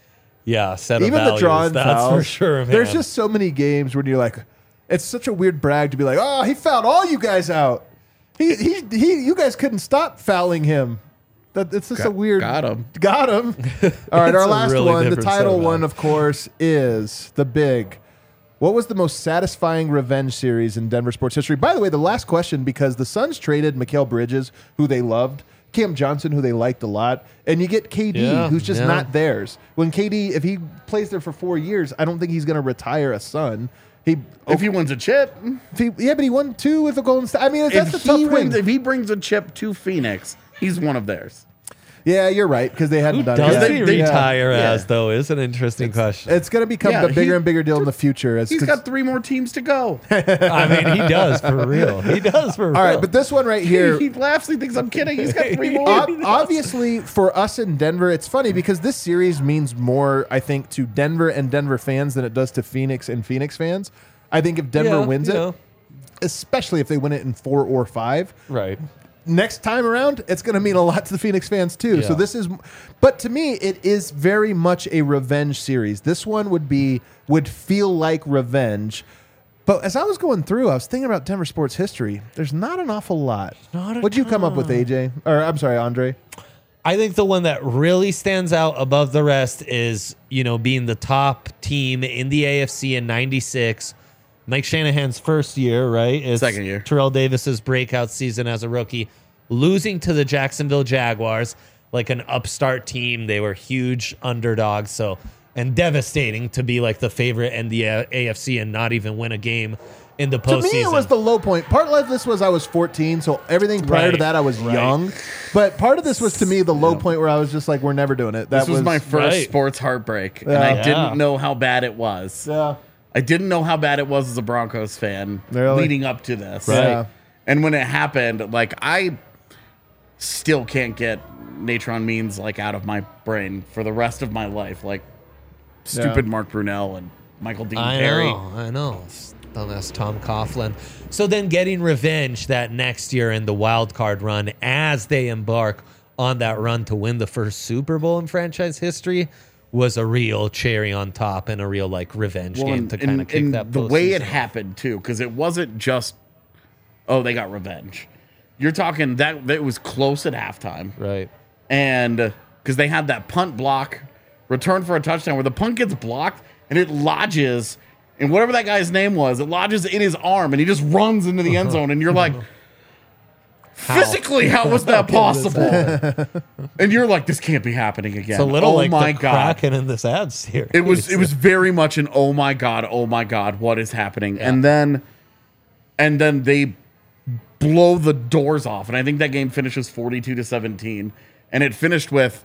yeah, set of Even values. the drawn That's fouls, for sure, man. There's just so many games where you're like, it's such a weird brag to be like, oh, he fouled all you guys out. He, he, he, you guys couldn't stop fouling him. That it's just a Got- weird. got him. Got him. All right, It's our a last really one, the different set title of one, values. of course, is the big. What was the most satisfying revenge series in Denver sports history? By the way, the last question, because the Suns traded Mikal Bridges, who they loved, Cam Johnson, who they liked a lot, and you get K D, Yeah, who's just yeah. not theirs. When K D, if he plays there for four years, I don't think he's going to retire a Sun. He, If he wins a chip, if he, yeah, but he won two with the Golden State. I mean, that's if a tough he thing. wins, if he brings a chip to Phoenix, he's one of theirs. Yeah, you're right, because they hadn't Who done does it. he They- they- retire yeah. as, though, is an interesting question. It's going to become Yeah, a bigger he- and bigger deal in the future. As, He's 'cause- got three more teams to go. I mean, he does, for real. He does, for real. all right, but this one right here. he laughs. He thinks I'm kidding. He's got three more. Ob- obviously, for us in Denver, it's funny because this series means more, I think, to Denver and Denver fans than it does to Phoenix and Phoenix fans. I think if Denver Yeah, wins you it, know. especially if they win it in four or five, Right. next time around, it's going to mean a lot to the Phoenix fans too. So Yeah. this is, but to me, it is very much a revenge series. This one would be would feel like revenge. But as I was going through, I was thinking about Denver sports history. There's not an awful lot. Not a What'd you come up with, A J? Or I'm sorry, Andre. I think the one that really stands out above the rest is, you know, being the top team in the A F C in ninety-six. Mike Shanahan's first year, right? It's Second year. Terrell Davis's breakout season as a rookie, losing to the Jacksonville Jaguars, like an upstart team. They were huge underdogs. So and devastating to be like the favorite in the uh, A F C and not even win a game in the postseason. To me, it was the low point. Part of this was I was fourteen, so everything prior to Right, that I was right. young. But part of this was to me the low point where I was just like, we're never doing it. That This was, my first right. sports heartbreak, and Yeah. I Yeah. didn't know how bad it was. Yeah. I didn't know how bad it was as a Broncos fan Really? leading up to this. Right. Yeah. And when it happened, like I still can't get Natron Means like out of my brain for the rest of my life. Like stupid Yeah. Mark Brunell and Michael Dean I Perry. know, I know. Dumbass Tom Coughlin. So then getting revenge that next year in the wild card run as they embark on that run to win the first Super Bowl in franchise history was a real cherry on top and a real like revenge Well, game and, to kind and- of kick and that the way it postseason. happened too, because it wasn't just oh they got revenge. You're talking that that was close at halftime. Right. And because they had that punt block return for a touchdown where the punt gets blocked and it lodges in whatever that guy's name was, it lodges in his arm and he just runs into the end zone and you're like, physically, how was that possible? And you're like, this can't be happening again. It's a little oh like my the god. Kraken in this ad series. It was it was very much an oh my god, oh my god, what is happening? And then and then they blow the doors off. And I think that game finishes forty-two to seventeen. And it finished with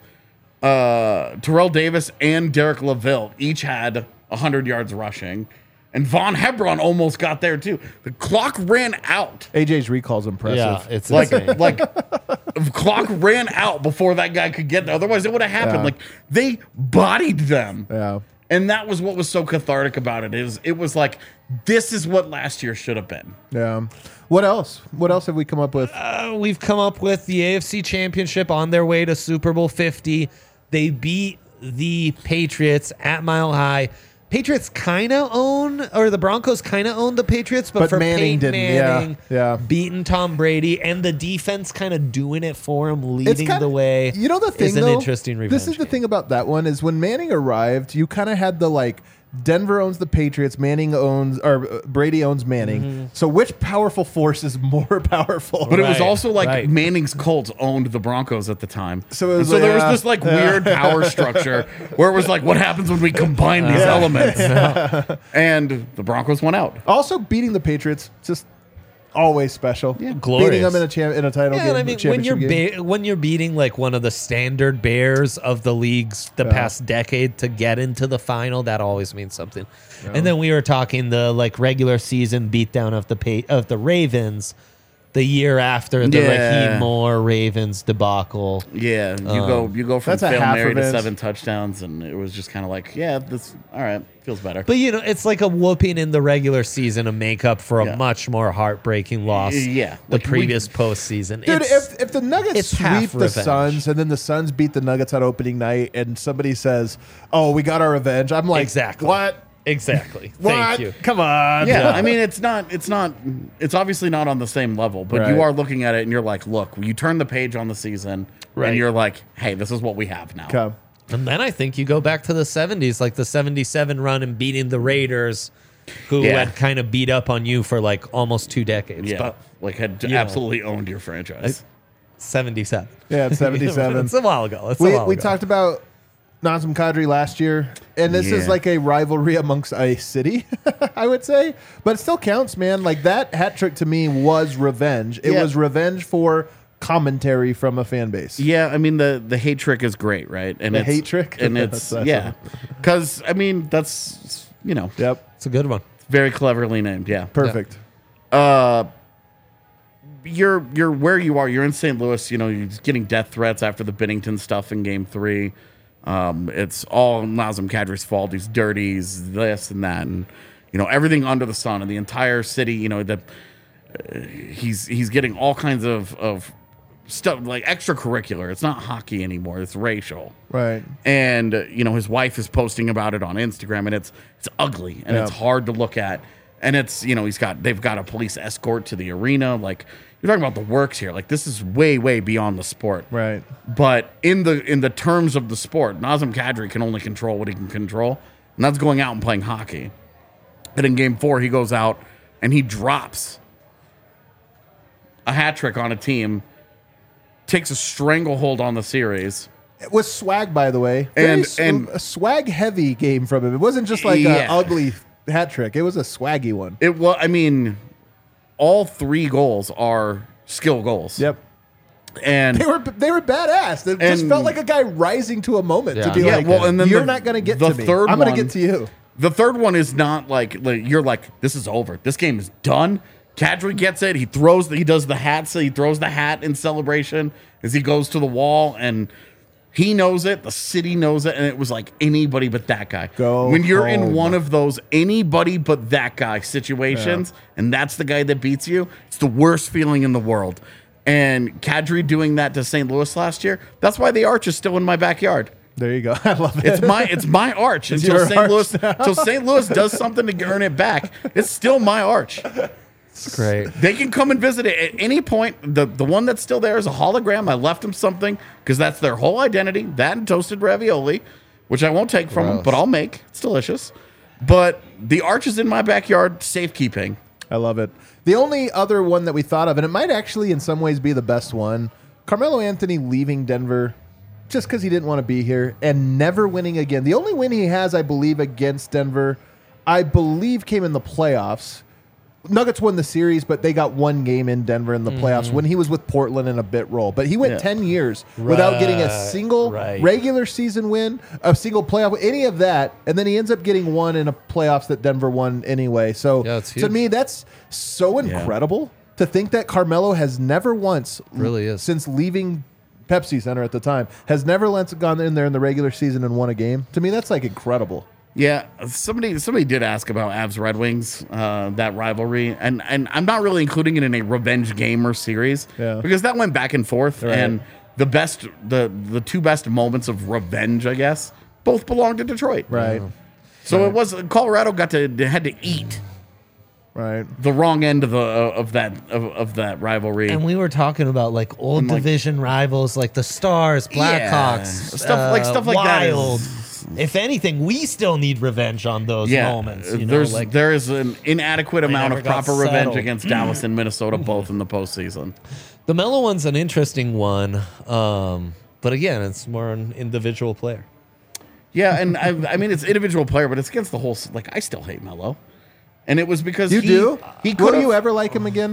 uh, Terrell Davis and Derek LaVille each had one hundred yards rushing. And Von Hebron almost got there too. The clock ran out. A J's recall's impressive. yeah, it's Like, insane. like the clock ran out before that guy could get there. Otherwise, it would have happened. Yeah. Like they bodied them. Yeah. And that was what was so cathartic about it. Is it was like this is what last year should have been. Yeah. What else? What else have we come up with? Uh, we've come up with the A F C Championship on their way to Super Bowl fifty. They beat the Patriots at Mile High. Patriots kind of own, or the Broncos kind of own the Patriots, but, But for Manning Peyton didn't, yeah, Manning, yeah. beating Tom Brady, and the defense kind of doing it for him, It's leading kinda- the way. You know the thing is an though? interesting revenge. This is the game. thing about that one is when Manning arrived, you kind of had the like Denver owns the Patriots, Manning owns or uh, Brady owns Manning. Mm-hmm. So which powerful force is more powerful? But it was Right, also like right. Manning's Colts owned the Broncos at the time. So it was And so like, there was yeah, this like yeah. weird power structure where it was like, what happens when we combine these elements? And the Broncos went out. Also beating the Patriots just always special. Yeah, glorious. Beating them in a champ in a title Yeah, game. and I mean, when championship you're game. ba- when you're beating like one of the standard bears of the leagues the past decade to get into the final, that always means something. And then we were talking the like regular season beatdown of the pa- of the Ravens the year after the Yeah. Raheem Moore Ravens debacle. Yeah, you go you go from That's a Hail half Mary to revenge. seven touchdowns, and it was just kind of like, yeah, this all right, feels better. But you know, it's like a whooping in the regular season to make up for a Yeah. much more heartbreaking loss. Yeah, the like, we- previous postseason. Dude, It's- if, if the Nuggets it's half sweep the revenge. Suns and then the Suns beat the Nuggets on opening night and somebody says, "Oh, we got our revenge," I'm like, Exactly. What? exactly. What? Thank you. Come on. yeah, I mean, it's not, it's not, it's obviously not on the same level, but Right. you are looking at it and you're like, look, you turn the page on the season, Right. and you're like, hey, this is what we have now. Come. And then I think you go back to the seventies, like the seventy-seven run and beating the Raiders, who Yeah. had kind of beat up on you for like almost two decades. Yeah, But like had know. absolutely owned your franchise. seventy-seven. Yeah, it's seventy-seven. It's a while ago. It's a we while we ago. talked about Nazem Kadri last year, and this is Yeah. like a rivalry amongst a city, I would say, but it still counts, man. Like that hat trick to me was revenge. It Yeah. was revenge for commentary from a fan base. Yeah, I mean the the hate trick is great, right? And The it's, hate trick? and That's it's awesome. yeah, because I mean that's you know Yep, It's a good one. very cleverly named. Yeah, perfect. uh, you're you're where you are. You're in Saint Louis. You know, you're getting death threats after the Binnington stuff in Game Three. Um, it's all Nazem Kadri's fault. He's dirty. He's this and that, and you know everything under the sun. And the entire city. You know that uh, he's he's getting all kinds of of stuff like extracurricular. It's not hockey anymore. It's racial. Right. And uh, you know his wife is posting about it on Instagram, and it's it's ugly and Yeah. it's hard to look at. And it's you know he's got they've got a police escort to the arena. Like you're talking about the works here. Like this is way way beyond the sport. Right. But in the in the terms of the sport, Nazem Kadri can only control what he can control, and that's going out and playing hockey. And in Game Four, he goes out and he drops a hat trick on a team, takes a stranglehold on the series. It was swag, by the way. And- Very and- a swag heavy game from him. It wasn't just like Yeah. an ugly hat trick. It was a swaggy one. It well, I mean, all three goals are skill goals. Yep. And They were they were badass. It just And- felt like a guy rising to a moment to Yeah. be Yeah, like, well, and then you're the- not going to get the to me. third I'm going to one- get to you. the third one is not like, like you're like, this is over. This game is done. Kadri gets it. He throws. The, he does the hat. So he throws the hat in celebration as he goes to the wall, and he knows it. The city knows it, and it was like anybody but that guy. Go when you're in home. one of those anybody but that guy situations, and that's the guy that beats you. It's the worst feeling in the world. And Kadri doing that to Saint Louis last year. That's why the arch is still in my backyard. There you go. I love it. It's my it's my arch until your Saint arch Louis until Saint Louis does something to earn it back. It's still my arch. It's great. They can come and visit it at any point. The the one that's still there is a hologram. I left them something because that's their whole identity. That and toasted ravioli, which I won't take from them, Gross. but I'll make. It's delicious. But the arch is in my backyard, safekeeping. I love it. The only other one that we thought of, and it might actually in some ways be the best one, Carmelo Anthony leaving Denver just because he didn't want to be here and never winning again. The only win he has, I believe, against Denver, I believe came in the playoffs. Nuggets won the series, but they got one game in Denver in the playoffs when he was with Portland in a bit role. But he went Yeah. ten years without getting a Right, single right. regular season win, a single playoff, any of that. And then he ends up getting one in a playoffs that Denver won anyway. So Yeah, it's to huge. me, that's so incredible to think that Carmelo has never once, Really is. since leaving Pepsi Center at the time, has never once gone in there in the regular season and won a game. To me, that's like incredible. Yeah, somebody somebody did ask about Avs Red Wings, uh, that rivalry, and and I'm not really including it in a revenge game or series Yeah. because that went back and forth, Right. and the best the the two best moments of revenge, I guess, both belonged to Detroit. Right. So it was Colorado got to they had to eat Right. the wrong end of the of that of, of that rivalry. And we were talking about like old like- division rivals like the Stars, Yeah. Blackhawks, Stuff like- uh, stuff like that is- Wild. If anything, we still need revenge on those yeah, moments. You know, there's like there is an inadequate amount never of got proper revenge settled. against Dallas and Minnesota, both in the postseason. the Melo one's an interesting one. Um, but again, it's more an individual player. Yeah, and I, I mean it's individual player, but it's against the whole. s- Like I still hate Melo, and it was because You he, do? He Will could you ever like him again?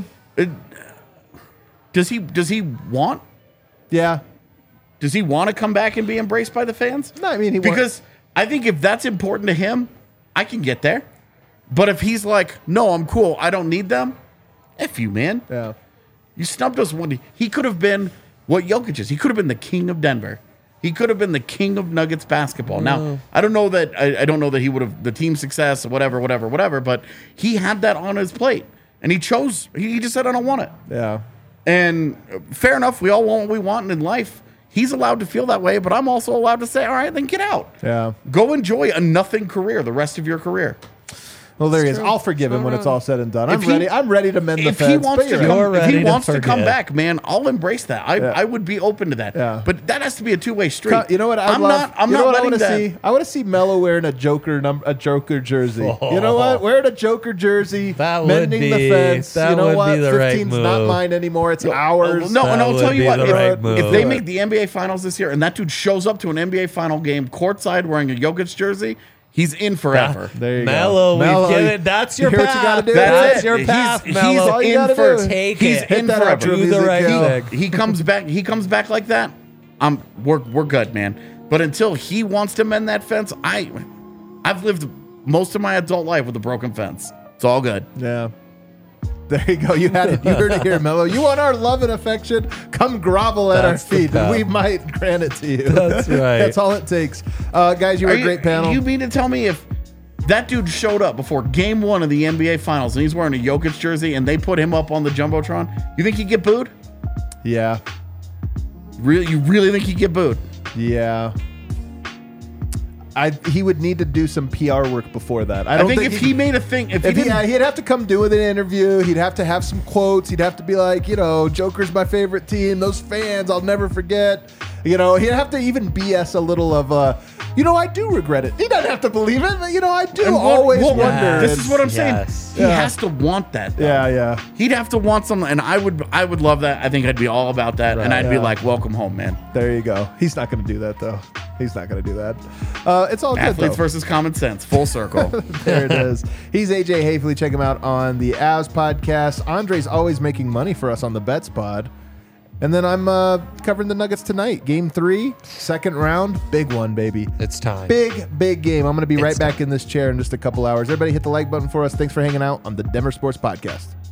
Does he? Does he want? Yeah. Does he want to come back and be embraced by the fans? No, I mean, he wa- because I think if that's important to him, I can get there. But if he's like, no, I'm cool, I don't need them. F you, man. Yeah. You snubbed us one. He could have been what Jokic is. He could have been the king of Denver. He could have been the king of Nuggets basketball. Now, I don't know that I, I don't know that he would have the team success, whatever, whatever, whatever. But he had that on his plate, and he chose. He, he just said, "I don't want it." Yeah. And uh, fair enough. We all want what we want in life. He's allowed to feel that way, but I'm also allowed to say, "All right, then get out. Yeah. Go enjoy a nothing career the rest of your career." Well, there he is. true. I'll forgive him All when it's right. all said and done. I'm If he- ready. I'm ready to mend the If fence. he wants but to you're come, right. You're if he ready to wants to come forgive. back, man, I'll embrace that. I, Yeah. I would be open to that. Yeah. But that has to be a two way street. You know what? I I'm love, not. I'm you know not what I letting want to that. see. I want to see Melo wearing a Joker num- a Joker jersey. You know what? Wearing a Joker jersey, That would mending the be- fence. that you know would what? be the right fifteen's not move. mine anymore. It's ours. No, That and I'll would tell you be what. the If, right if move. they make the N B A Finals this year, and that dude shows up to an N B A Final game courtside wearing a Jokic jersey, he's in forever. There you Mellow, go. Melo, we've you- given, that's your you hear path. what you gotta do? That's That's your it. path, He's, Mellow. he's all you in gotta for. do. Take he's it. in Hit that forever. outro Do the music, right Kel. thing. He comes back. He comes back like that. I'm. We're we're good, man. But until he wants to mend that fence, I, I've lived most of my adult life with a broken fence. It's all good. Yeah. There you go. You had it. You heard it here, Melo. You want our love and affection? Come grovel at That's our the feet, and path. we might grant it to you. That's right. That's all it takes. Uh, guys, you were Are a you- great panel. You mean to tell me if that dude showed up before game one of the N B A Finals and he's wearing a Jokic jersey and they put him up on the Jumbotron, you think he'd get booed? yeah. Really? You really think he'd get booed? Yeah. I he would need to do some P R work before that. I I don't think, think, if he he made a thing, if, If he he, didn't, uh, he'd have to come do with an interview. He'd have to have some quotes. He'd have to be like, you know, Joker's my favorite team. Those fans, I'll never forget. You know, he'd have to even B S a little of, uh, you know, I do regret it. He doesn't have to believe it, but, you know, I do And what- always what- wonder. This is what I'm Yes. saying. He Yeah. has to want that. Though. Yeah, yeah. He'd have to want something, and I would, I would love that. I think I'd be all about that, and I'd be yeah. like, "Welcome home, man." There you go. He's not going to do that, though. He's not going to do that. Uh, it's all good, Athletes though. versus common sense, full circle. There it is. He's A J Hafley. Check him out on the Avs podcast. Andre's always making money for us on the Bets pod. And then I'm uh, covering the Nuggets tonight. Game three, second round, big one, baby. It's time. Big, big game. I'm going to be right It's back in this chair in just a couple hours. Everybody hit the like button for us. Thanks for hanging out on the Denver Sports Podcast.